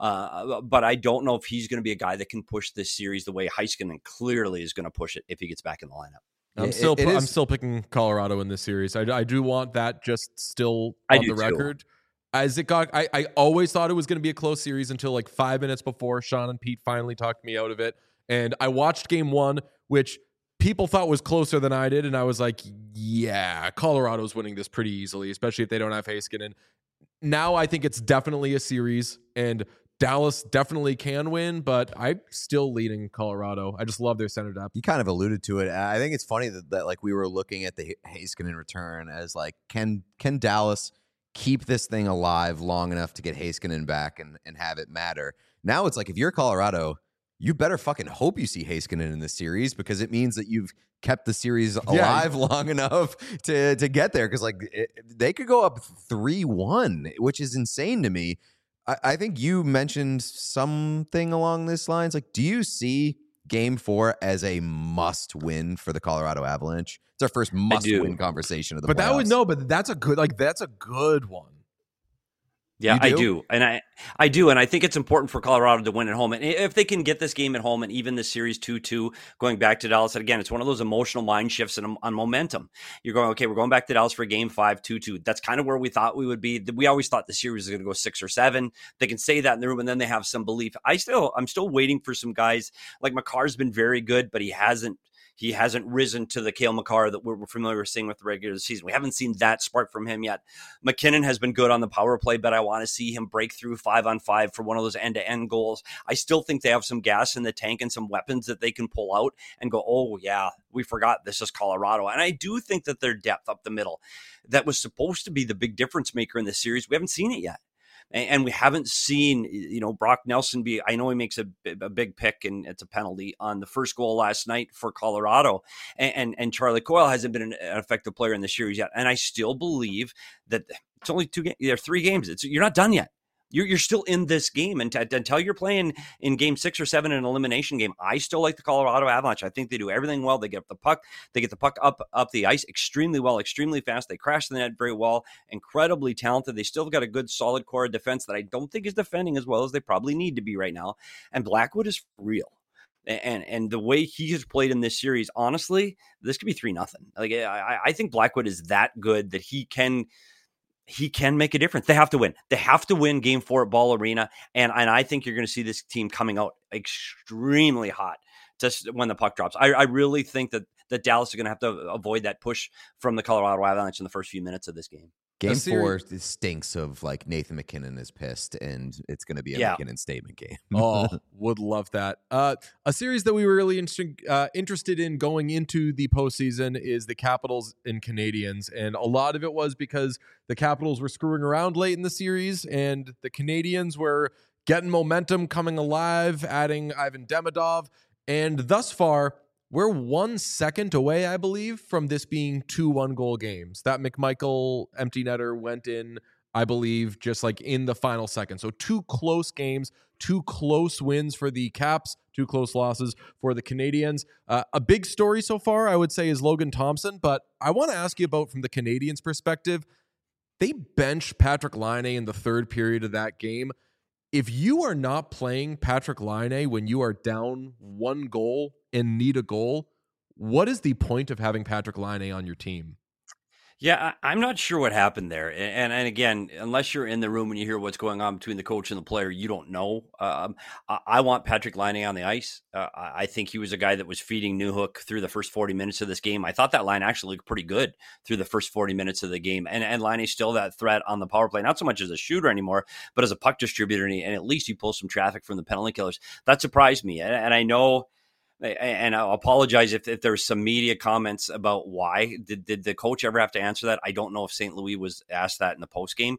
But I don't know if he's going to be a guy that can push this series the way Heiskanen clearly is going to push it if he gets back in the lineup. I'm still picking Colorado in this series. I do want that just still on the record. As it got, I always thought it was going to be a close series until like 5 minutes before Sean and Pete finally talked me out of it. And I watched game 1, which people thought was closer than I did. And I was like, yeah, Colorado's winning this pretty easily, especially if they don't have Heiskanen. Now I think it's definitely a series, and Dallas definitely can win, but I'm still leading Colorado. I just love their center depth. You kind of alluded to it. I think it's funny that like we were looking at the Heiskanen return as like, can Dallas keep this thing alive long enough to get Heiskanen back and have it matter? Now it's like, if you're Colorado, you better fucking hope you see Heiskanen in this series, because it means that you've kept the series alive long enough to get there. Because like they could go up 3-1, which is insane to me. I think you mentioned something along this lines. Like, do you see Game 4 as a must-win for the Colorado Avalanche? It's our first must-win conversation of the playoffs. But that's a good one. Yeah, I do. And I do. And I think it's important for Colorado to win at home. And if they can get this game at home and even the series 2-2 going back to Dallas, and again, it's one of those emotional mind shifts on momentum. You're going, okay, we're going back to Dallas for game 5, 2-2. That's kind of where we thought we would be. We always thought the series was going to go 6 or 7. They can say that in the room, and then they have some belief. I'm still waiting for some guys. Like, Makar's been very good, but he hasn't He hasn't risen to the Cale Makar that we're familiar with seeing with the regular season. We haven't seen that spark from him yet. McKinnon has been good on the power play, but I want to see him break through 5-on-5 for one of those end-to-end goals. I still think they have some gas in the tank and some weapons that they can pull out and go, oh, yeah, we forgot this is Colorado. And I do think that their depth up the middle, that was supposed to be the big difference maker in this series, we haven't seen it yet. And we haven't seen, Brock Nelson I know he makes a big pick and it's a penalty on the first goal last night for Colorado. And Charlie Coyle hasn't been an effective player in the series yet. And I still believe that it's only 2 games. There are 3 games. You're not done yet. You're still in this game, and until you're playing in game 6 or 7 in an elimination game, I still like the Colorado Avalanche. I think they do everything well. They get the puck, up the ice extremely well, extremely fast. They crash the net very well, incredibly talented. They still got a good, solid core of defense that I don't think is defending as well as they probably need to be right now. And Blackwood is real. And the way he has played in this series, honestly, this could be 3-0. Like I think Blackwood is that good that he can make a difference. They have to win. They have to win game 4 at Ball Arena. And I think you're going to see this team coming out extremely hot just when the puck drops. I really think that Dallas is going to have to avoid that push from the Colorado Avalanche in the first few minutes of this game. Game 4 stinks of like Nathan McKinnon is pissed, and it's going to be a McKinnon statement game. Oh, would love that. A series that we were really interested in going into the postseason is the Capitals and Canadiens, and a lot of it was because the Capitals were screwing around late in the series, and the Canadiens were getting momentum, coming alive, adding Ivan Demidov, and thus far, we're 1 second away, I believe, from this being 2 1-goal games. That McMichael empty netter went in, I believe, just like in the final second. So 2 close games, 2 close wins for the Caps, 2 close losses for the Canadiens. A big story so far, I would say, is Logan Thompson. But I want to ask you about, from the Canadiens' perspective, they benched Patrik Laine in the 3rd period of that game. If you are not playing Patrik Laine when you are down 1 goal and need a goal, what is the point of having Patrik Laine on your team? Yeah, I'm not sure what happened there. And again, unless you're in the room and you hear what's going on between the coach and the player, you don't know. I want Patrik Laine on the ice. I think he was a guy that was feeding Newhook through the first 40 minutes of this game. I thought that line actually looked pretty good through the first 40 minutes of the game. And Laine's still that threat on the power play, not so much as a shooter anymore, but as a puck distributor. And at least he pulls some traffic from the penalty killers. That surprised me. And I know... And I'll apologize if there's some media comments about why. Did the coach ever have to answer that? I don't know if St. Louis was asked that in the post game.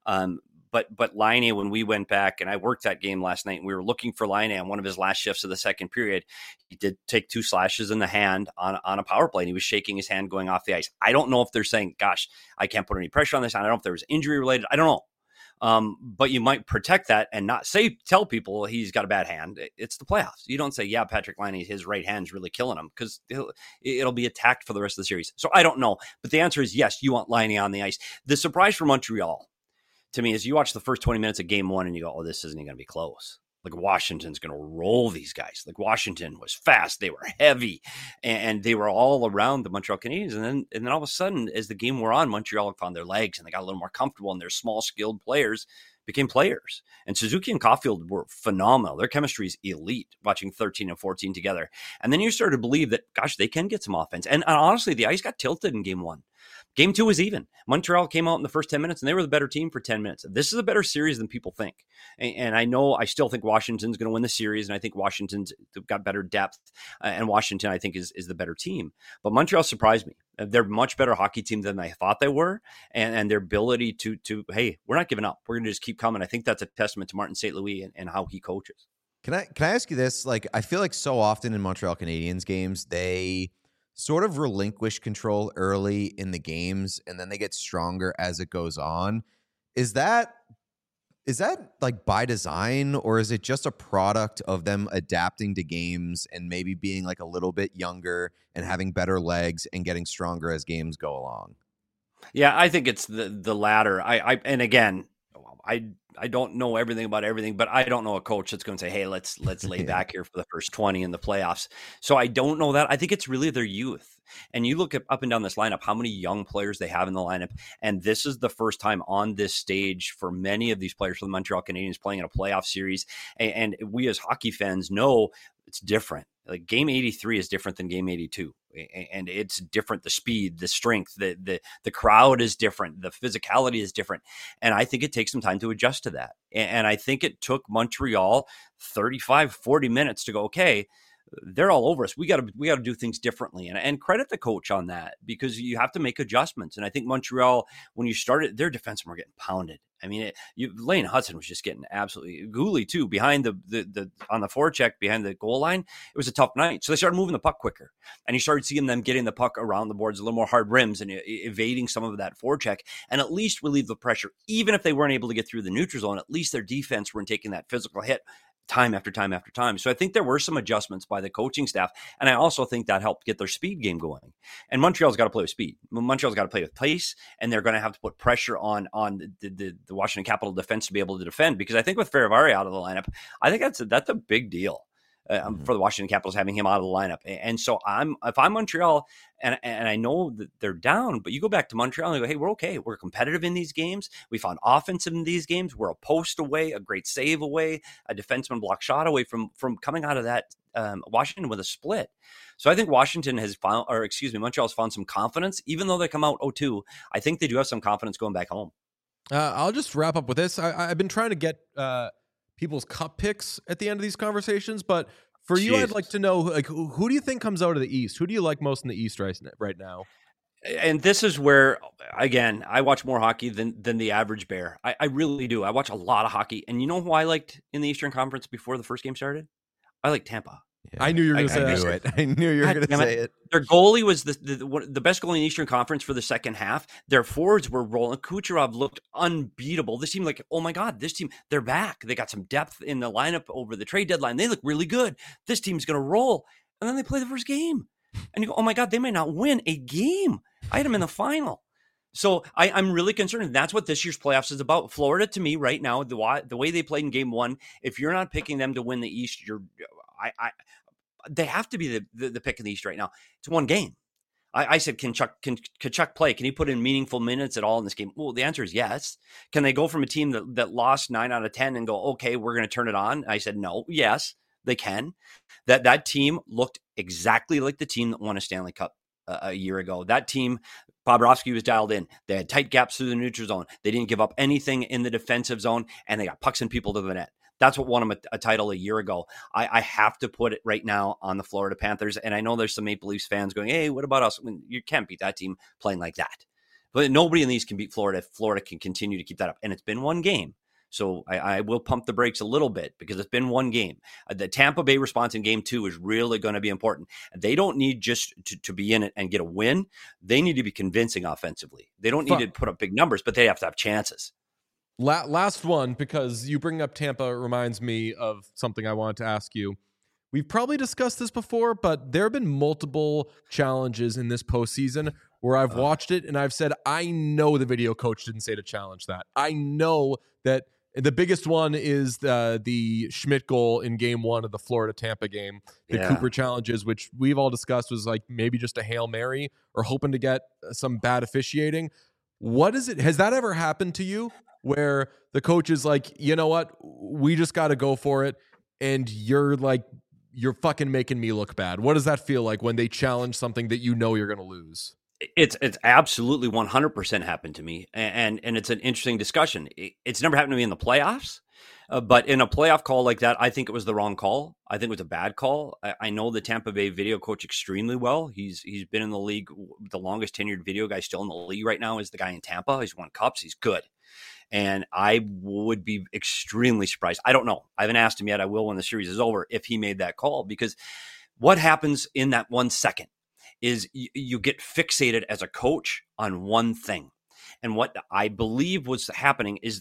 But Laine, when we went back, and I worked that game last night, and we were looking for Laine on one of his last shifts of the second period. He did take 2 slashes in the hand on a power play, and he was shaking his hand going off the ice. I don't know if they're saying, gosh, I can't put any pressure on this. I don't know if there was injury related. I don't know. But you might protect that and not tell people he's got a bad hand. It's the playoffs. You don't say, yeah, Patrik Laine, his right hand's really killing him, because it'll be attacked for the rest of the series. So I don't know. But the answer is yes, you want Laine on the ice. The surprise for Montreal, to me, is you watch the first 20 minutes of game 1 and you go, oh, this isn't going to be close. Like, Washington's going to roll these guys. Like, Washington was fast. They were heavy, and they were all around the Montreal Canadiens. And then all of a sudden, as the game wore on, Montreal found their legs, and they got a little more comfortable, and their small, skilled players became players. And Suzuki and Caulfield were phenomenal. Their chemistry is elite, watching 13 and 14 together. And then you start to believe that, gosh, they can get some offense. And honestly, the ice got tilted in game 1. Game 2 was even. Montreal came out in the first 10 minutes, and they were the better team for 10 minutes. This is a better series than people think. And I still think Washington's going to win the series, and I think Washington's got better depth, and Washington, I think, is the better team. But Montreal surprised me. They're a much better hockey team than I thought they were, and their ability to hey, we're not giving up. We're going to just keep coming. I think that's a testament to Martin St. Louis and how he coaches. Can I ask you this? Like, I feel like so often in Montreal Canadiens games, they sort of relinquish control early in the games, and then they get stronger as it goes on. Is that like by design, or is it just a product of them adapting to games and maybe being like a little bit younger and having better legs and getting stronger as games go along? Yeah, I think it's the latter. And again, I don't know everything about everything, but I don't know a coach that's going to say, hey, let's lay back here for the first 20 in the playoffs. So I don't know that. I think it's really their youth. And you look up and down this lineup, how many young players they have in the lineup. And this is the first time on this stage for many of these players for the Montreal Canadiens playing in a playoff series. And we as hockey fans know it's different. Like game 83 is different than game 82, and it's different. The speed, the strength, the crowd is different. The physicality is different. And I think it takes some time to adjust to that. And I think it took Montreal 35, 40 minutes to go, okay, they're all over us. We got to do things differently, and credit the coach on that, because you have to make adjustments. And I think Montreal, when you started, their defensemen were getting pounded. I mean, Lane Hudson was just getting absolutely Gooley too behind the on the forecheck behind the goal line. It was a tough night, so they started moving the puck quicker, and you started seeing them getting the puck around the boards, a little more hard rims, and evading some of that forecheck, and at least relieve the pressure. Even if they weren't able to get through the neutral zone, at least their defense weren't taking that physical hit time after time after time. So I think there were some adjustments by the coaching staff. And I also think that helped get their speed game going. And Montreal's got to play with speed. Montreal's got to play with pace, and they're going to have to put pressure on the Washington Capital defense to be able to defend. Because I think with Ferravari out of the lineup, I think that's a big deal. For the Washington Capitals, having him out of the lineup. And so if I'm Montreal, and I know that they're down, but you go back to Montreal and you go, hey, we're okay. We're competitive in these games. We found offense in these games. We're a post away, a great save away, a defenseman block shot away from coming out of that Washington with a split. So I think Montreal's found some confidence. Even though they come out 0-2, I think they do have some confidence going back home. I'll just wrap up with this. I've been trying to get people's cup picks at the end of these conversations, but for you, I'd like to know, like, who do you think comes out of the East? Who do you like most in the East right now? And this is where, again, I watch more hockey than the average bear. I really do. I watch a lot of hockey. And you know who I liked in the Eastern Conference before the first game started? I like Tampa. Yeah. I knew you were going to say it. I knew you were going to say it. Their goalie was the best goalie in the Eastern Conference for the second half. Their forwards were rolling. Kucherov looked unbeatable. This seemed like, oh my God, this team, they're back. They got some depth in the lineup over the trade deadline. They look really good. This team's going to roll. And then they play the first game. And you go, oh my God, they might not win a game. I had them in the final. So I'm really concerned. And that's what this year's playoffs is about. Florida, to me, right now, the way they played in game one, if you're not picking them to win the East, they have to be the pick in the East right now. It's one game. I said, can Chuck play? Can he put in meaningful minutes at all in this game? Well, the answer is yes. Can they go from a team that lost 9 out of 10 and go, okay, we're going to turn it on? I said, no. Yes, they can. That team looked exactly like the team that won a Stanley Cup a year ago. That team, Bobrovsky was dialed in. They had tight gaps through the neutral zone. They didn't give up anything in the defensive zone, and they got pucks and people to the net. That's what won them a title a year ago. I have to put it right now on the Florida Panthers. And I know there's some Maple Leafs fans going, hey, what about us? I mean, you can't beat that team playing like that. But nobody in these can beat Florida. Florida can continue to keep that up. And it's been one game. So I will pump the brakes a little bit because it's been one game. The Tampa Bay response in game 2 is really going to be important. They don't need just to be in it and get a win. They need to be convincing offensively. They don't need to put up big numbers, but they have to have chances. Last one, because you bring up Tampa, reminds me of something I wanted to ask you. We've probably discussed this before, but there have been multiple challenges in this postseason where I've watched it and I've said, I know the video coach didn't say to challenge that. I know that the biggest one is the Schmidt goal in game 1 of the Florida-Tampa game. The Cooper challenges, which we've all discussed, was like maybe just a Hail Mary or hoping to get some bad officiating. What is it? Has that ever happened to you? Where the coach is like, you know what, we just got to go for it, and you're fucking making me look bad. What does that feel like when they challenge something that you know you're going to lose? It's absolutely 100% happened to me, and it's an interesting discussion. It's never happened to me in the playoffs, but in a playoff call like that, I think it was the wrong call. I think it was a bad call. I know the Tampa Bay video coach extremely well. He's been in the league. The longest tenured video guy still in the league right now is the guy in Tampa. He's won cups. He's good. And I would be extremely surprised. I don't know. I haven't asked him yet. I will when the series is over if he made that call, because what happens in that 1 second is you get fixated as a coach on one thing. And what I believe was happening is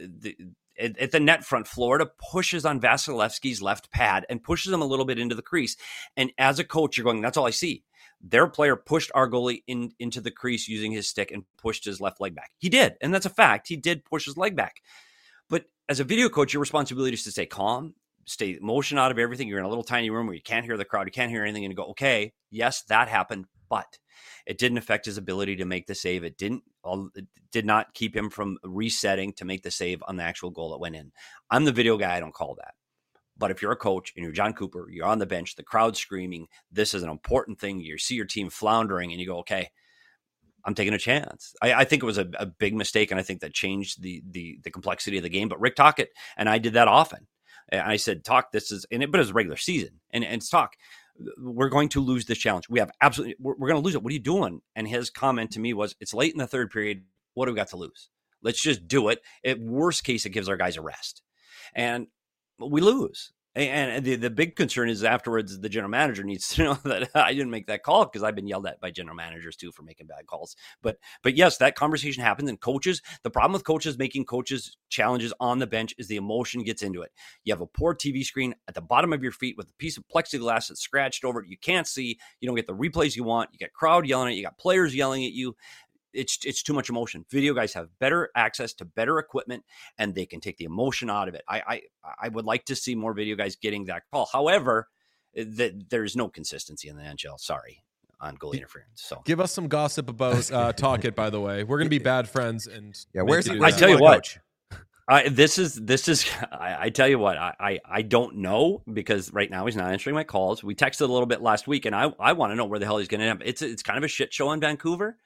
at the net front, Florida pushes on Vasilevsky's left pad and pushes him a little bit into the crease. And as a coach, you're going, that's all I see. Their player pushed our goalie into the crease using his stick and pushed his left leg back. He did. And that's a fact. He did push his leg back. But as a video coach, your responsibility is to stay calm, stay motion out of everything. You're in a little tiny room where you can't hear the crowd. You can't hear anything. And you go, okay, yes, that happened. But it didn't affect his ability to make the save. It did not keep him from resetting to make the save on the actual goal that went in. I'm the video guy. I don't call that. But if you're a coach and you're John Cooper, you're on the bench, the crowd's screaming, this is an important thing. You see your team floundering and you go, okay, I'm taking a chance. I think it was a big mistake, and I think that changed the complexity of the game. But Rick Tocchet and I did that often. And I said, Talk, this is, but it was a regular season. And Talk, we're going to lose this challenge. We're going to lose it. What are you doing? And his comment to me was, it's late in the third period. What do we got to lose? Let's just do it. At worst case, it gives our guys a rest. And we lose. And the big concern is afterwards, the general manager needs to know that I didn't make that call, because I've been yelled at by general managers too for making bad calls. But yes, that conversation happens. And coaches, the problem with coaches making coaches challenges on the bench is the emotion gets into it. You have a poor TV screen at the bottom of your feet with a piece of plexiglass that's scratched over it. You can't see. You don't get the replays you want. You got crowd yelling at you. You got players yelling at you. It's too much emotion. Video guys have better access to better equipment, and they can take the emotion out of it. I would like to see more video guys getting that call. However, there's no consistency in the NHL. Sorry, on goal interference. So give us some gossip about Tocchet. By the way, we're going to be bad friends. And where's he? I tell you what. This is. I tell you what. I don't know, because right now he's not answering my calls. We texted a little bit last week, and I want to know where the hell he's going to end up. It's kind of a shit show in Vancouver.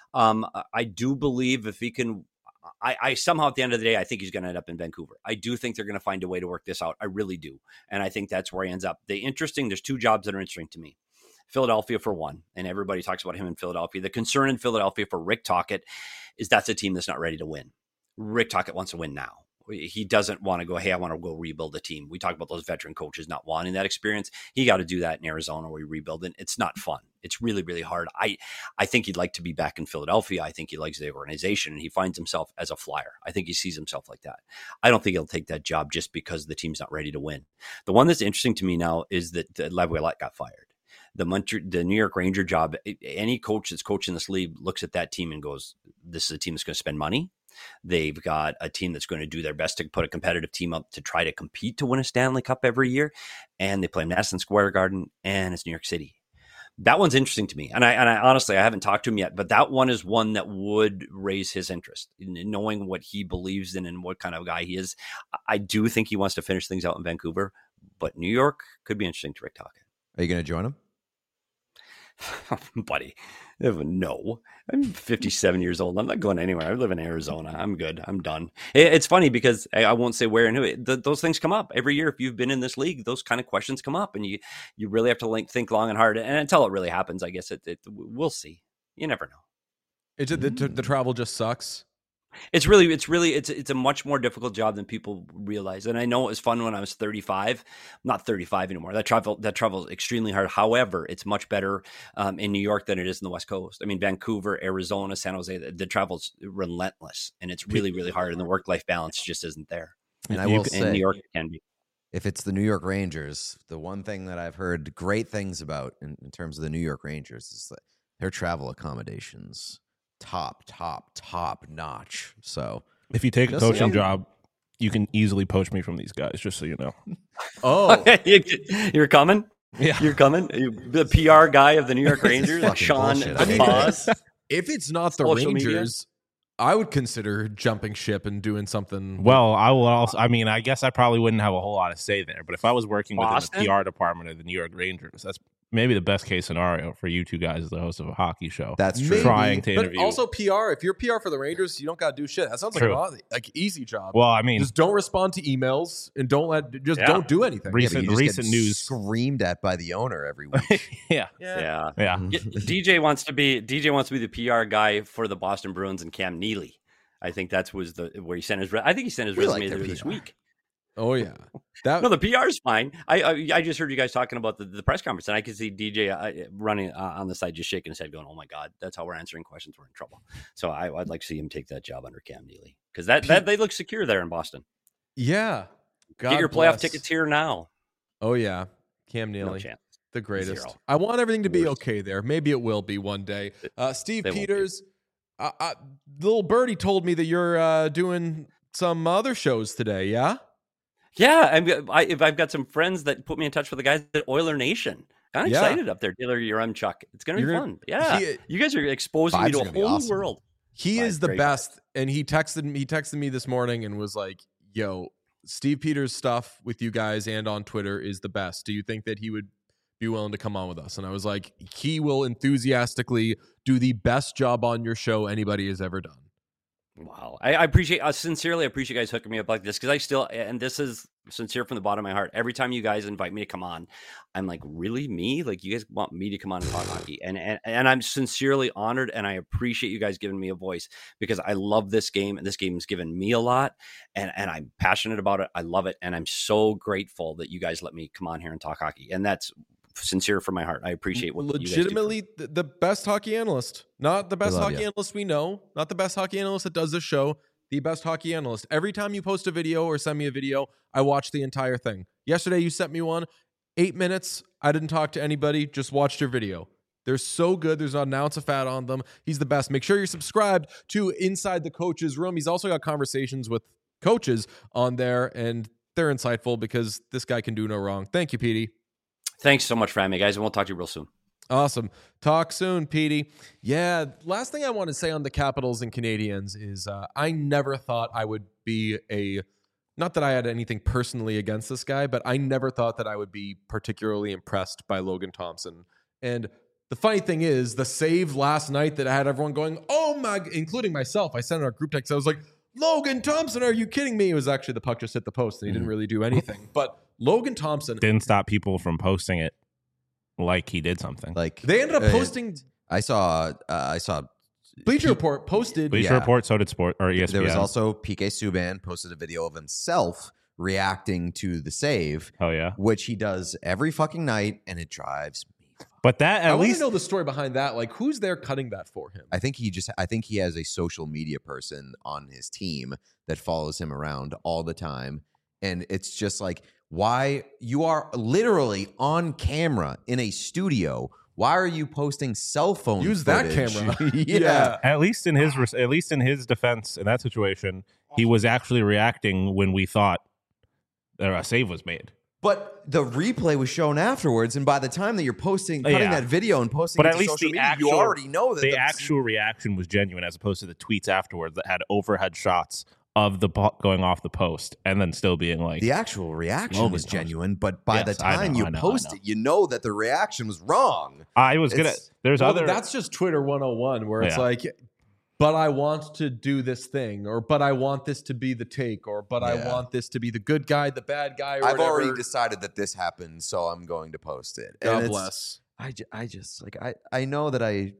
I do believe if he can, I somehow at the end of the day, I think he's going to end up in Vancouver. I do think they're going to find a way to work this out. I really do. And I think that's where he ends up. There's two jobs that are interesting to me. Philadelphia for one, and everybody talks about him in Philadelphia. The concern in Philadelphia for Rick Tocchet is that's a team that's not ready to win. Rick Tocchet wants to win now. He doesn't want to go, hey, I want to go rebuild a team. We talk about those veteran coaches not wanting that experience. He got to do that in Arizona where he rebuild it. It's not fun. It's really, really hard. I think he'd like to be back in Philadelphia. I think he likes the organization, and he finds himself as a flyer. I think he sees himself like that. I don't think he'll take that job just because the team's not ready to win. The one that's interesting to me now is that Laviolette got fired. The New York Ranger job, any coach that's coaching this league looks at that team and goes, this is a team that's going to spend money. They've got a team that's going to do their best to put a competitive team up to try to compete to win a Stanley Cup every year. And they play Madison Square Garden, and it's New York City. That one's interesting to me. And I honestly, I haven't talked to him yet, but that one is one that would raise his interest in knowing what he believes in and what kind of guy he is. I do think he wants to finish things out in Vancouver, but New York could be interesting to Rick Tocchet. Are you going to join him? Buddy, no. I'm 57 years old. I'm not going anywhere. I live in Arizona. I'm good. I'm done. It's funny because I won't say where and who. Those things come up every year. If you've been in this league, those kind of questions come up, and you really have to think long and hard. And until it really happens, I guess we'll see. You never know. Is it the travel just sucks? It's a much more difficult job than people realize. And I know it was fun when I was 35. I'm not 35 anymore. That travel is extremely hard. However, it's much better in New York than it is in the West Coast. I mean, Vancouver, Arizona, San Jose, the travel's relentless, and it's really, really hard. And the work-life balance just isn't there. And I will say, in New York, it can be. If it's the New York Rangers, the one thing that I've heard great things about in terms of the New York Rangers is that their travel accommodations top notch. So if you take a coaching job, you can easily poach me from these guys, just so you know. Oh, you're coming? Yeah, you're coming. The PR guy of the New York Rangers, Sean DePaz. If it's not the Rangers, media? I would consider jumping ship and doing something. Well, I will also. I mean, I guess I probably wouldn't have a whole lot to say there. But if I was working within the PR department of the New York Rangers, that's maybe the best case scenario for you two guys as the host of a hockey show. That's true. Trying to interview. But also PR. If you're PR for the Rangers, you don't got to do shit. That sounds like easy job. Well, I mean, just don't respond to emails and don't do anything. Recent news screamed at by the owner every week. Yeah. DJ wants to be the PR guy for the Boston Bruins and Cam Neely. I think that's where he sent his. I think he sent his resume this week. Oh yeah, no, the PR is fine. I just heard you guys talking about the press conference, and I could see DJ running on the side, just shaking his head, going, "Oh my God, that's how we're answering questions. We're in trouble." So I'd like to see him take that job under Cam Neely because that they look secure there in Boston. Yeah, get your playoff tickets here now. Oh yeah, Cam Neely, no chance. The greatest. Zero. I want everything to be okay there. Maybe it will be one day. Steve Peters, little birdie told me that you're doing some other shows today. Yeah. Yeah, I've got some friends that put me in touch with the guys at Oiler Nation. Kind of excited up there, Taylor Chuck. It's going to be fun. Yeah, you guys are exposing me to a whole new world. He is the best, and he texted me this morning and was like, "Yo, Steve Peters' stuff with you guys and on Twitter is the best. Do you think that he would be willing to come on with us? And I was like, he will enthusiastically do the best job on your show anybody has ever done. Wow. I sincerely appreciate you guys hooking me up like this, because I still, and this is sincere from the bottom of my heart, every time you guys invite me to come on, I'm like, really, me? Like, you guys want me to come on and talk hockey? And I'm sincerely honored, and I appreciate you guys giving me a voice, because I love this game, and this game has given me a lot, and I'm passionate about it. I love it, and I'm so grateful that you guys let me come on here and talk hockey, and that's sincere from my heart. I appreciate what legitimately you guys do. the best hockey analyst, not the best hockey analyst we know, not the best hockey analyst that does this show, the best hockey analyst. Every time you post a video or send me a video, I watch the entire thing. Yesterday you sent me one, 8 minutes. I didn't talk to anybody, just watched your video. They're so good. There's not an ounce of fat on them. He's the best. Make sure you're subscribed to Inside the Coach's Room. He's also got conversations with coaches on there, and they're insightful because this guy can do no wrong. Thank you, Petey. Thanks so much for having me, guys, and we'll talk to you real soon. Awesome. Talk soon, Petey. Yeah, last thing I want to say on the Capitals and Canadiens is I never thought I would be not that I had anything personally against this guy, but I never thought that I would be particularly impressed by Logan Thompson. And the funny thing is, the save last night that I had everyone going, oh my, including myself, I sent out a group text. I was like, Logan Thompson, are you kidding me? It was actually the puck just hit the post and he didn't really do anything. But Logan Thompson didn't stop people from posting it like he did something. Like they ended up posting. I saw Bleacher Report posted. Bleacher Report, so did Sport or ESPN. There was also PK Subban posted a video of himself reacting to the save. Oh yeah, which he does every fucking night, and it drives me. But that I want to know the story behind that. Like, who's there cutting that for him? I think he has a social media person on his team that follows him around all the time, and it's just like, why you are literally on camera in a studio. Why are you posting cell phone Use footage? that camera. Yeah. At least in his defense in that situation, he was actually reacting when we thought a save was made. But the replay was shown afterwards, and by the time that you're cutting that video and posting it to social media, you already know that the actual reaction was genuine, as opposed to the tweets afterwards that had overhead shots of the puck going off the post and then still being like, the actual reaction was genuine, but by the time you post it, you know that the reaction was wrong. That's just Twitter 101, where it's like, but I want to do this thing, or but I want this to be the take, or but I want this to be the good guy, the bad guy, or I've already decided that this happened, so I'm going to post it. God bless. I just like I know that I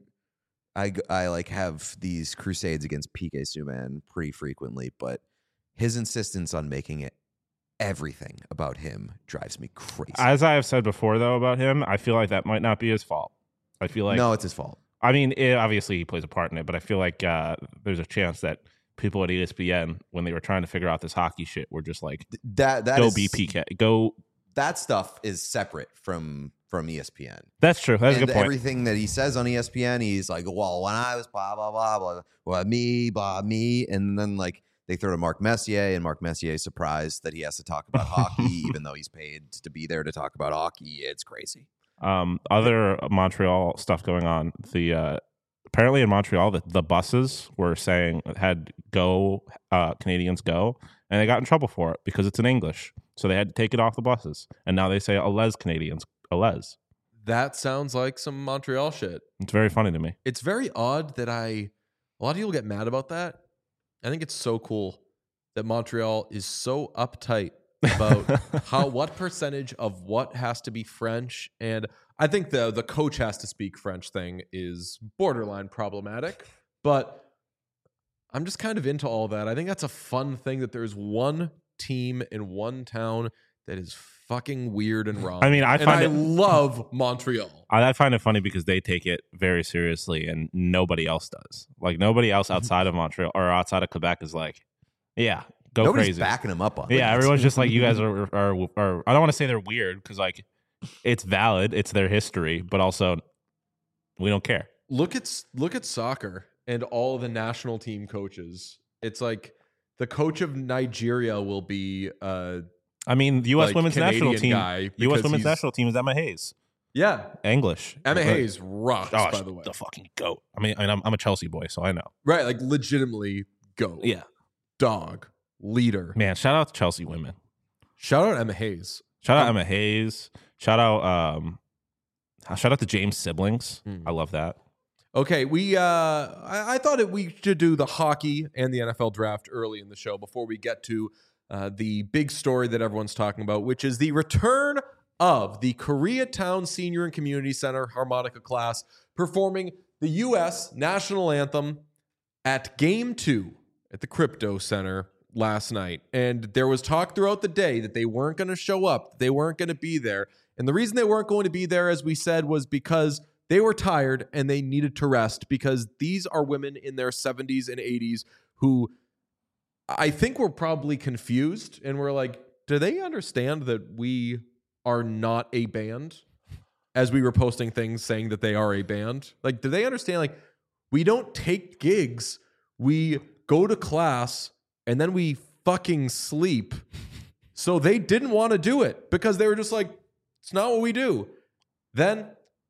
like have these crusades against PK Subban pretty frequently, but his insistence on making it everything about him drives me crazy. As I have said before, though, about him, I feel like that might not be his fault. I feel like no, it's his fault. I mean, obviously he plays a part in it, but I feel like there's a chance that people at ESPN, when they were trying to figure out this hockey shit, were just like, that go be PK, go. That stuff is separate from ESPN. That's true. That's a good point. Everything that he says on ESPN, he's like, well, when I was blah, blah, blah, blah, well, me. And then like they throw to Mark Messier, and Mark Messier is surprised that he has to talk about hockey, even though he's paid to be there to talk about hockey. It's crazy. Other Montreal stuff going on. Apparently in Montreal, the buses were saying had go Canadians go, and they got in trouble for it because it's in English. So they had to take it off the buses, and now they say Allez Canadians. Allez. That sounds like some Montreal shit. It's very funny to me. It's very odd that a lot of people get mad about that. I think it's so cool that Montreal is so uptight about what percentage of what has to be French. And I think the coach has to speak French thing is borderline problematic, but I'm just kind of into all that. I think that's a fun thing that there's one team in one town that is fucking weird and wrong. I mean, I love Montreal. I find it funny because they take it very seriously and nobody else does. Like nobody else outside of Montreal or outside of Quebec is like, yeah, go Nobody's crazy. Backing them up on it. Yeah, everyone's just like, you guys are I don't want to say they're weird because like it's valid, it's their history, but also we don't care. Look at soccer and all the national team coaches. It's like the coach of Nigeria will be I mean, the U.S. women's Canadian national team. U.S. women's national team is Emma Hayes. Yeah, English. Emma Hayes rocks. By the way, the fucking goat. I mean, I'm a Chelsea boy, so I know. Right, like legitimately goat. Yeah, dog leader. Man, shout out to Chelsea women. Shout out Emma Hayes. Shout out Emma Hayes. Shout out the James siblings. I love that. Okay, I thought we should do the hockey and the NFL draft early in the show before we get to the big story that everyone's talking about, which is the return of the Koreatown Senior and Community Center harmonica class performing the U.S. national anthem at Game 2 at the Crypto Center last night. And there was talk throughout the day that they weren't going to show up, they weren't going to be there. And the reason they weren't going to be there, as we said, was because they were tired and they needed to rest, because these are women in their 70s and 80s who I think were probably confused and were like, do they understand that we are not a band? As we were posting things saying that they are a band. Like, do they understand? Like, we don't take gigs. We go to class and then we fucking sleep. So they didn't want to do it because they were just like, it's not what we do. Then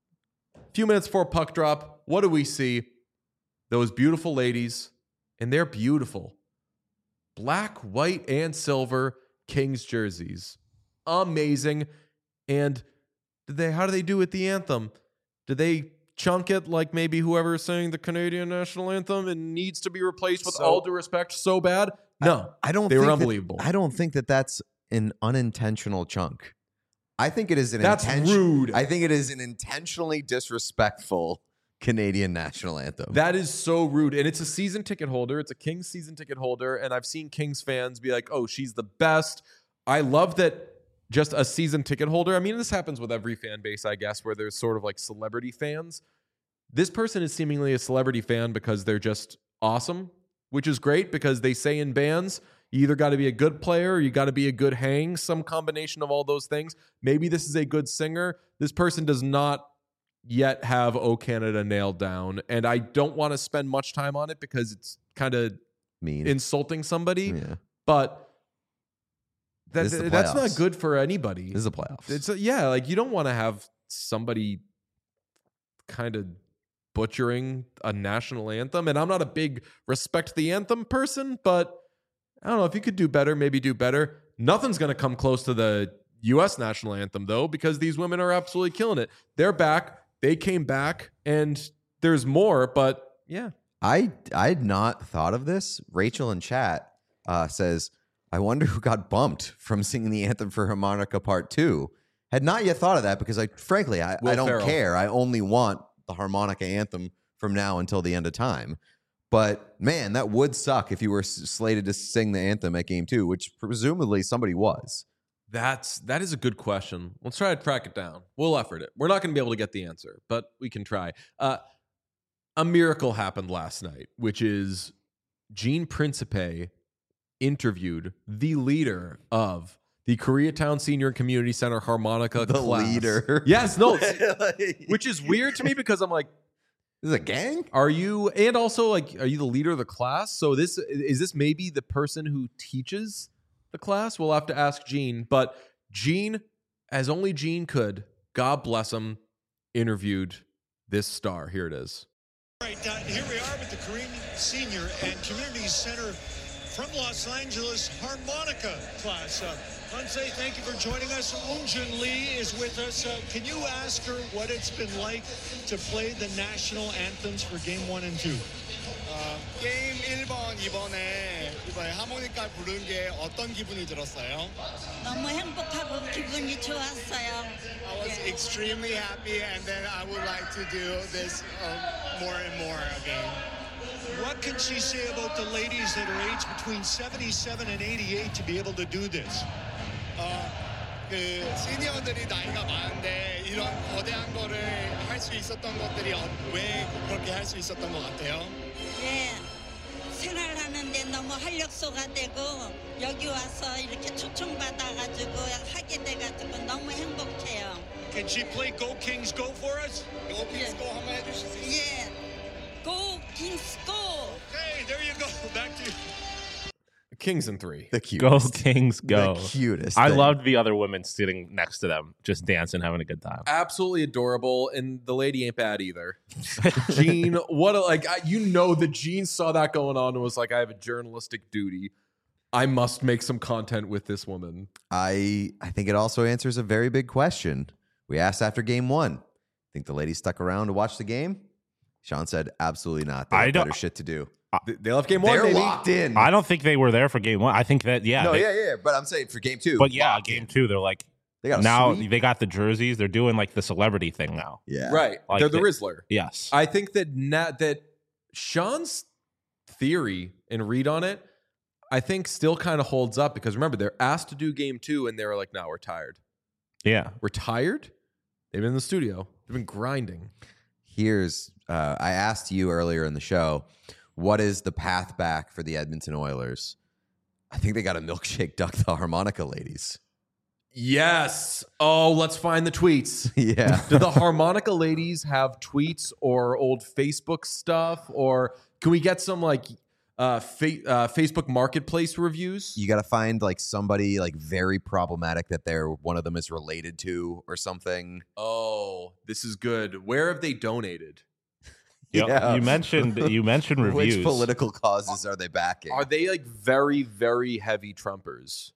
a few minutes before puck drop, what do we see? Those beautiful ladies, and they're beautiful. Black, white, and silver Kings jerseys. Amazing. And how do they do with the anthem? Did they chunk it like maybe whoever is saying the Canadian national anthem and needs to be replaced with all due respect so bad? No, I don't. They were think unbelievable. I don't think that that's an unintentional chunk. I think it is an That's rude. I think it is an intentionally disrespectful Canadian national anthem. That is so rude. And it's a season ticket holder. It's a Kings season ticket holder. And I've seen Kings fans be like, oh, she's the best. I love that just a season ticket holder. I mean, this happens with every fan base, I guess, where there's sort of like celebrity fans. This person is seemingly a celebrity fan because they're just awesome, which is great because they say in bands, you either got to be a good player or you got to be a good hang, some combination of all those things. Maybe this is a good singer. This person does not yet have O Canada nailed down. And I don't want to spend much time on it because it's kind of mean insulting somebody. Yeah. But This is the that's not playoffs. good for anybody. This is the playoffs. It's like you don't want to have somebody kind of butchering a national anthem. And I'm not a big respect the anthem person, but I don't know, if you could do better, maybe do better. Nothing's going to come close to the U.S. national anthem, though, because these women are absolutely killing it. They're back. They came back, and there's more, but yeah. I'd not thought of this. Rachel in chat says, I wonder who got bumped from singing the anthem for Harmonica Part 2. Had not yet thought of that because I don't Ferrell. care. I only want the harmonica anthem from now until the end of time. But man, that would suck if you were slated to sing the anthem at Game 2, which presumably somebody was. That is a good question. Let's try to track it down. We'll effort it. We're not going to be able to get the answer, but we can try. A miracle happened last night, which is Gene Principe interviewed the leader of the Koreatown Senior and Community Center harmonica The class. leader. Yes, no, which is weird to me because I'm like, This is a gang? are you, and also like, are you the leader of the class? So is this maybe the person who teaches the class? We'll have to ask Gene, but Gene, as only Gene could, God bless him, interviewed this star. Here it is. All right, here we are with the Korean Senior and Community Center from Los Angeles harmonica class. Hansei, thank you for joining us. Eunjun Lee is with us. Can you ask her what it's been like to play the national anthems for Game 1 and 2? 게임 1번 이번에 하모니카 부른 게 어떤 기분이 들었어요? 너무 행복하고 기분이 좋았어요. I was extremely happy and then I would like to do this more and more again. What can she say about the ladies that are aged between 77 and 88 to be able to do this? 그 시니어들이 나이가 많은데 이런 거대한 거를 할 수 있었던 것들이 왜 그렇게 할 수 있었던 것 같아요? 예, 생활하는데 너무 활력소가 되고 여기 와서 이렇게 초청받아가지고 하게 돼가지고 너무 행복해요. Can she play Go Kings Go for us? Go Kings Go 한번 해주실 수 있어요? 예, Go Kings Go! Hey, there you go. Back to you. Kings in 3. The cutest. Go Kings, go. The cutest. I thing. loved the other women sitting next to them, just dancing, having a good time. Absolutely adorable, and the lady ain't bad either. Gene, what a, like you know that Gene saw that going on and was like, I have a journalistic duty. I must make some content with this woman. I think it also answers a very big question. We asked after game 1. Think the ladies stuck around to watch the game? Sean said, absolutely not. They have better shit to do. They left game 1, They're baby. locked in. I don't think they were there for game 1. I think that But I'm saying for game 2. But yeah, game 2, they're like they got now sweep. they got the jerseys. They're doing like the celebrity thing now. Yeah. Right. Like They're the Rizzler. Yes. I think that that Sean's theory and read on it, I think still kind of holds up because remember, they're asked to do game 2 and they were like, no, we're tired. Yeah. We're tired? They've been in the studio. They've been grinding. Here's, I asked you earlier in the show, what is the path back for the Edmonton Oilers? I think they got a milkshake duck the harmonica ladies. Yes. Oh, let's find the tweets. Yeah. Do the harmonica ladies have tweets or old Facebook stuff? Or can we get some like Facebook Marketplace reviews? You got to find like somebody like very problematic that one of them is related to or something. Oh, this is good. Where have they donated? Yep. Yeah. You mentioned reviews. Which political causes are they backing? Are they like very, very heavy Trumpers?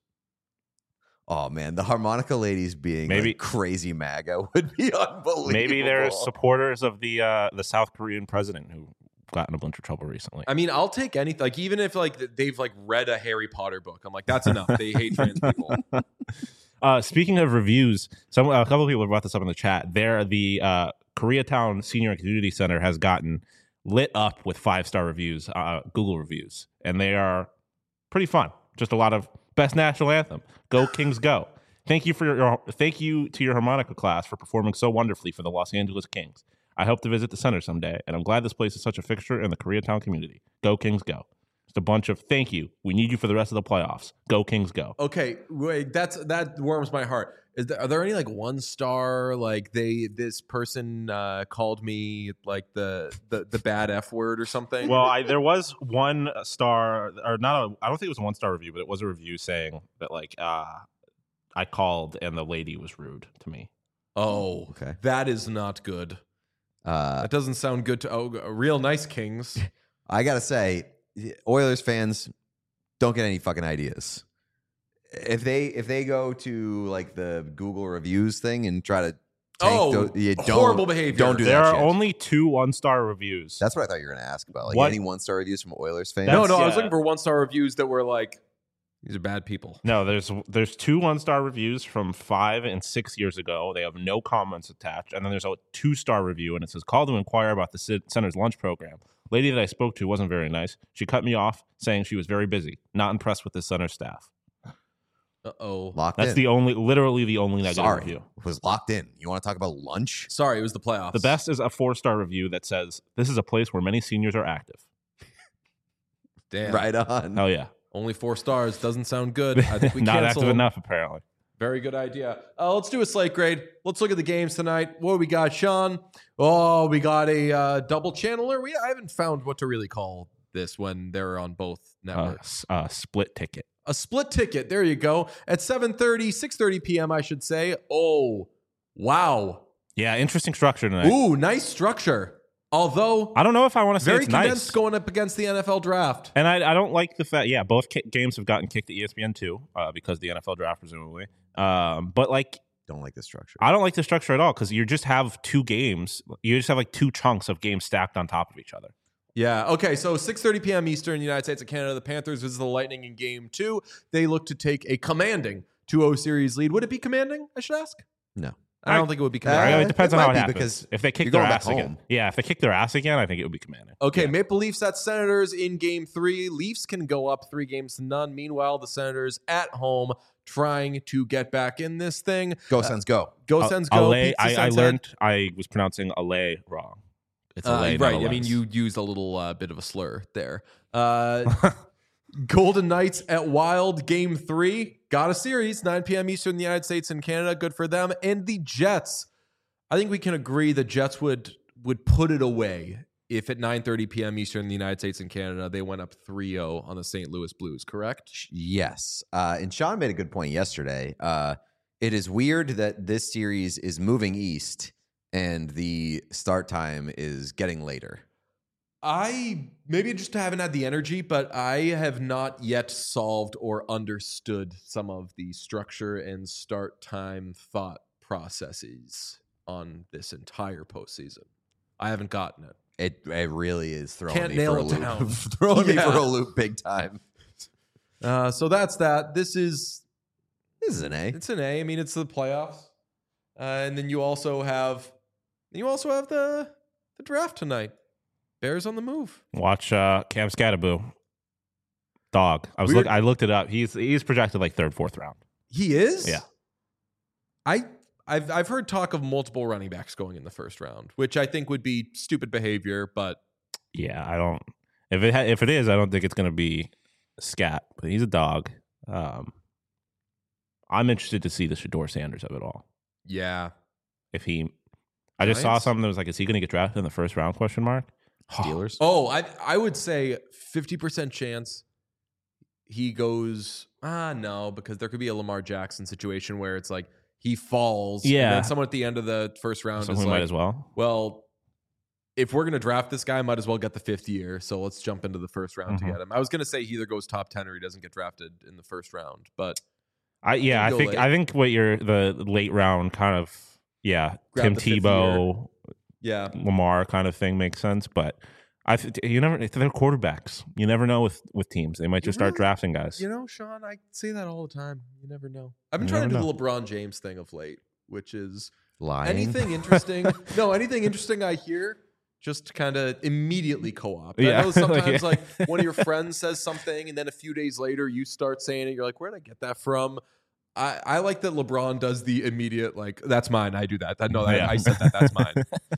Oh man, the harmonica ladies being Maybe- like crazy MAGA would be unbelievable. Maybe they're supporters of the South Korean president who got in a bunch of trouble recently. I mean, I'll take anything. Like even if like they've like read a Harry Potter book, I'm like, that's enough. They hate trans people. Speaking of reviews, a couple of people have brought this up in the chat. The Koreatown Senior and Community Center has gotten lit up with 5-star reviews, Google reviews, and they are pretty fun. Just a lot of best national anthem, Go Kings Go. Thank you to your harmonica class for performing so wonderfully for the Los Angeles Kings. I hope to visit the center someday, and I'm glad this place is such a fixture in the Koreatown community. Go Kings Go. Just a bunch of thank you. We need you for the rest of the playoffs. Go Kings Go. Okay, wait, that warms my heart. Are there any like 1-star like this person called me like the bad F word or something? Well, there was 1 star, or not. I don't think it was a 1-star review, but it was a review saying that like I called and the lady was rude to me. Oh, Okay. That is not good. That doesn't sound good to real nice Kings. I gotta say, Oilers fans don't get any fucking ideas. If they go to like the Google reviews thing and try to horrible behavior. Don't do There that are shit. only 2 1-star reviews. That's what I thought you were gonna ask about. Like What? any 1-star reviews from Oilers fans. No, I was yeah. looking for 1-star reviews that were like, these are bad people. No, there's 2 1-star reviews from 5 and 6 years ago. They have no comments attached, and then there's a 2-star review, and it says, "Call to inquire about the center's lunch program. Lady that I spoke to wasn't very nice. She cut me off, saying she was very busy. Not impressed with the center staff." Uh-oh. Locked That's in. literally the only negative Sorry, review. it was locked in. You want to talk about lunch? Sorry, it was the playoffs. The best is a 4-star review that says, "This is a place where many seniors are active." Damn. Right on. Hell yeah. Only 4 stars. Doesn't sound good. I think we Not cancel active them. enough, apparently. Very good idea. Let's do a slate grade. Let's look at the games tonight. What do we got, Sean? Oh, we got a double channeler. I haven't found what to really call this when they're on both networks. Split ticket. A split ticket. There you go. At 6:30 p.m., I should say. Oh, wow. Yeah, interesting structure tonight. Ooh, nice structure. Although, I don't know if I want to say very it's condensed nice. going up against the NFL draft. And I don't like the fact, both games have gotten kicked to ESPN2 because the NFL draft, presumably. But like, Don't like the structure. I don't like the structure at all because you just have 2 games. You just have like 2 chunks of games stacked on top of each other. Yeah. Okay. So 6:30 p.m. Eastern, United States and Canada. The Panthers visit the Lightning in Game 2. They look to take a commanding 2-0 series lead. Would it be commanding? I should ask. No. I don't think it would be commanding. It depends it on how might it be happens. because If they kick you're their going back ass again, home. if they kick their ass again, I think it would be commanding. Okay, Yeah. Maple Leafs at Senators in Game 3. Leafs can go up 3-0. Meanwhile, the Senators at home trying to get back in this thing. Go Sens, go. Go Sens, go. Alay, Pizza I Sens learned I was pronouncing Alay wrong. It's Alay, right. not I mean, Alay. you used a little bit of a slur there. Golden Knights at Wild, Game 3. Got a series, 9 p.m. Eastern in the United States and Canada. Good for them. And the Jets. I think we can agree the Jets would put it away if at 9:30 p.m. Eastern in the United States and Canada, they went up 3-0 on the St. Louis Blues, correct? Yes. And Sean made a good point yesterday. It is weird that this series is moving east and the start time is getting later. I maybe just haven't had the energy, but I have not yet solved or understood some of the structure and start time thought processes on this entire postseason. I haven't gotten it. It really is throwing Can't me nail for a it loop. down. Throwing me Yeah. for a loop big time. So that's that. This is an A. It's an A. I mean, it's the playoffs, and then you also have the draft tonight. Bears on the move. Watch Cam Scatterboo. Dog. I looked it up. He's projected like third, fourth round. He is. Yeah. I've heard talk of multiple running backs going in the first round, which I think would be stupid behavior. But Yeah, I don't. If it is, I don't think it's going to be Scat. But he's a dog. I'm interested to see the Shedeur Sanders of it all. yeah, I just saw Giants? something that was like, is he going to get drafted in the first round? Question mark. Steelers. Oh, I would say 50% chance he goes. No, because there could be a Lamar Jackson situation where it's like he falls. Yeah. And then someone at the end of the first round So is we like, might as well. well, if we're gonna draft this guy, might as well get the 5th year. So let's jump into the first round to Mhm. get him. I was gonna say he either goes top 10 or he doesn't get drafted in the first round, but I go late. think what the late round kind of Grab Tim the 5th Tebow, yeah. Lamar kind of thing makes sense. But they're quarterbacks. You never know with teams. They might just start Really? drafting guys. You know, Sean, I say that all the time. You never know. I've been You trying to never do the LeBron James thing of late, which is Lying. anything interesting. No, anything interesting I hear, just kind of immediately co-opt. Yeah. I know sometimes Yeah. like one of your friends says something, and then a few days later you start saying it. You're like, where did I get that from? I like that LeBron does the immediate like, that's mine. I do that. Yeah. I said that. That's mine.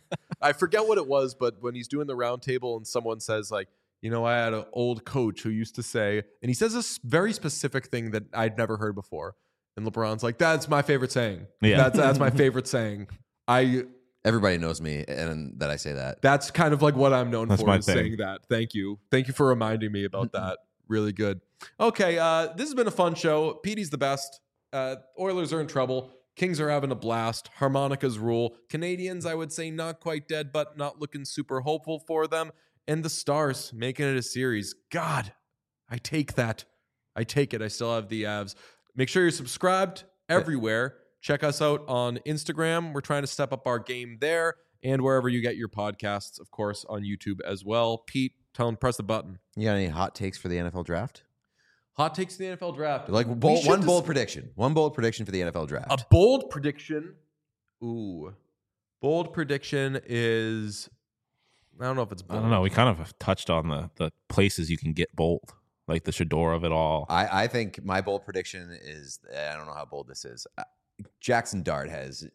I forget what it was, but when he's doing the round table and someone says like, you know, I had an old coach who used to say, and he says this very specific thing that I'd never heard before. And LeBron's like, that's my favorite saying. Yeah. That's my favorite saying. Everybody knows me and that I say that. That's kind of like what I'm known That's for, my is thing. saying that. Thank you. Thank you for reminding me about that. Really good. Okay, this has been a fun show. Petey's the best. Oilers are in trouble. Kings are having a blast. Harmonicas rule. Canadians, I would say, not quite dead, but not looking super hopeful for them. And the Stars making it a series. God, I take that. I take it. I still have the Avs. Make sure you're subscribed everywhere. Check us out on Instagram. We're trying to step up our game there, and wherever you get your podcasts, of course, on YouTube as well. Pete, tell him press the button. You got any hot takes for the NFL draft? Hot takes in the NFL draft. Like We bold, should one dis- bold prediction. One bold prediction for the NFL draft. A bold prediction. Ooh. Bold prediction is, I don't know if it's I bold. don't know. We kind of have touched on the places you can get bold, like the Shedeur of it all. I think my bold prediction is, I don't know how bold this is. Jackson Dart has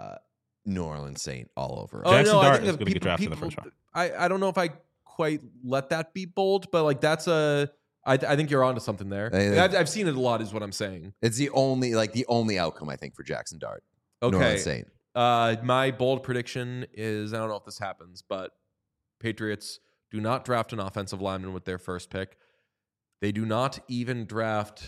New Orleans Saint all over. Oh, Jackson no, I Dart think is that gonna get drafted in the first round. I don't know if I quite let that be bold, but like that's I think you're onto something there. Hey, I've seen it a lot, is what I'm saying. It's the only outcome I think for Jackson Dart. New Okay. Orleans Saint. My bold prediction is, I don't know if this happens, but Patriots do not draft an offensive lineman with their first pick. They do not even draft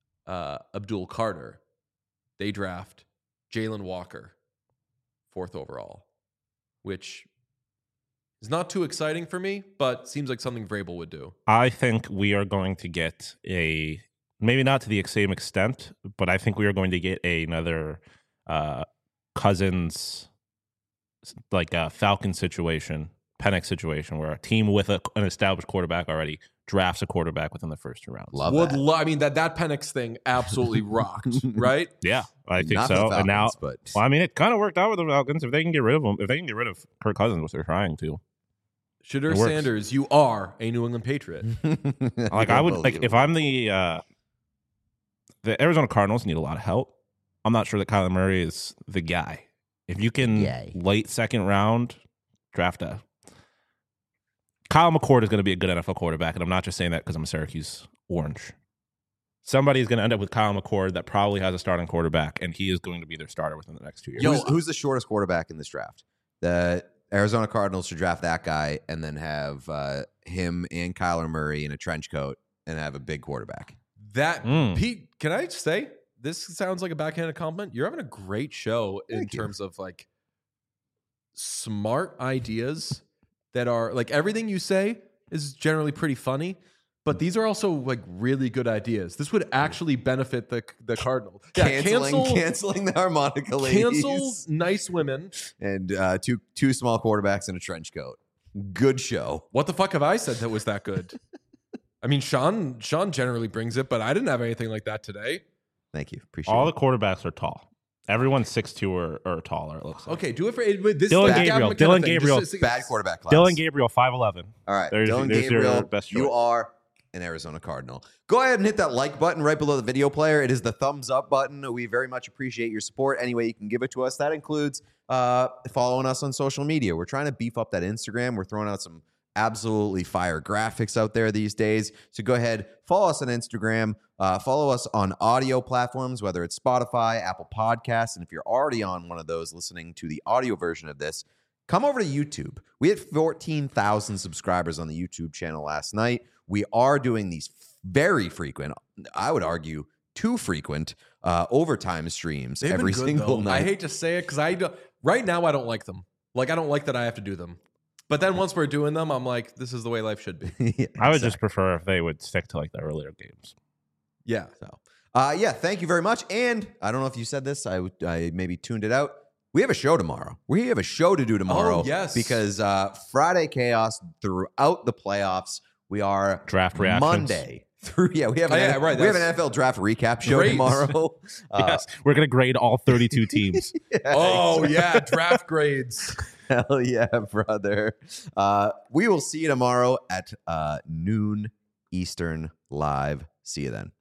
Abdul Carter. They draft Jalen Walker, 4th overall, which is not too exciting for me, but seems like something Vrabel would do. I think we are going to get maybe not to the same extent, but I think we are going to get another Cousins, like a Falcon situation, Penix situation, where a team with an established quarterback already drafts a quarterback within the first 2 rounds. Love that. I mean, that Penix thing absolutely rocked, right? Yeah, I think Not for so. the And now, Falcons, but well, I mean, it kind of worked out with the Falcons. If they can get rid of him, if they can get rid of Kirk Cousins, which they're trying to, Shedeur It works. Sanders, you are a New England Patriot. like I would like if I'm the Arizona Cardinals need a lot of help. I'm not sure that Kyler Murray is the guy. If you can Yay. late second round draft a Kyle McCord is going to be a good NFL quarterback, and I'm not just saying that because I'm a Syracuse Orange. Somebody is going to end up with Kyle McCord that probably has a starting quarterback, and he is going to be their starter within the next 2 years. who's the shortest quarterback in this draft? The Arizona Cardinals should draft that guy and then have him and Kyler Murray in a trench coat and have a big quarterback. That Mm. Pete, can I just say, this sounds like a backhanded compliment. You're having a great show in Thank you. terms of like smart ideas that are like everything you say is generally pretty funny, but these are also like really good ideas. This would actually benefit the Cardinals. Yeah, Canceling the harmonica ladies. cancel nice women. And two small quarterbacks in a trench coat. Good show. What the fuck have I said that was that good? I mean, Sean generally brings it, but I didn't have anything like that today. Thank you. Appreciate All it. the quarterbacks are tall. Everyone's 6'2" or taller, it looks like. Okay, do it for this. Dylan is like Gabriel. Gavin McKenna Dylan thing. Gabriel. Just- Bad quarterback class. Dylan Gabriel, 5'11". All right. There's Dylan your Gabriel, best choice. you are an Arizona Cardinal. Go ahead and hit that like button right below the video player. It is the thumbs up button. We very much appreciate your support. Any way you can give it to us. That includes following us on social media. We're trying to beef up that Instagram. We're throwing out some absolutely fire graphics out there these days. So go ahead, follow us on Instagram. Follow us on audio platforms, whether it's Spotify, Apple Podcasts. And if you're already on one of those listening to the audio version of this, come over to YouTube. We had 14,000 subscribers on the YouTube channel last night. We are doing these very frequent, I would argue, too frequent overtime streams They've been every good, single though. night. I hate to say it because right now I don't like them. Like I don't like that I have to do them. But then once we're doing them, I'm like, this is the way life should be. Yeah, I would exactly. just prefer if they would stick to like the earlier games. Yeah. So, yeah, thank you very much. And I don't know if you said this. I maybe tuned it out. We have a show tomorrow. We have a show to do tomorrow. Oh, yes. Because Friday Chaos throughout the playoffs. We are Draft reactions. Monday through. Yeah, we have an, right, we have an that's NFL draft recap show great. tomorrow. Yes, we're going to grade all 32 teams. Oh yeah, draft grades. Hell yeah, brother. We will see you tomorrow at noon Eastern live. See you then.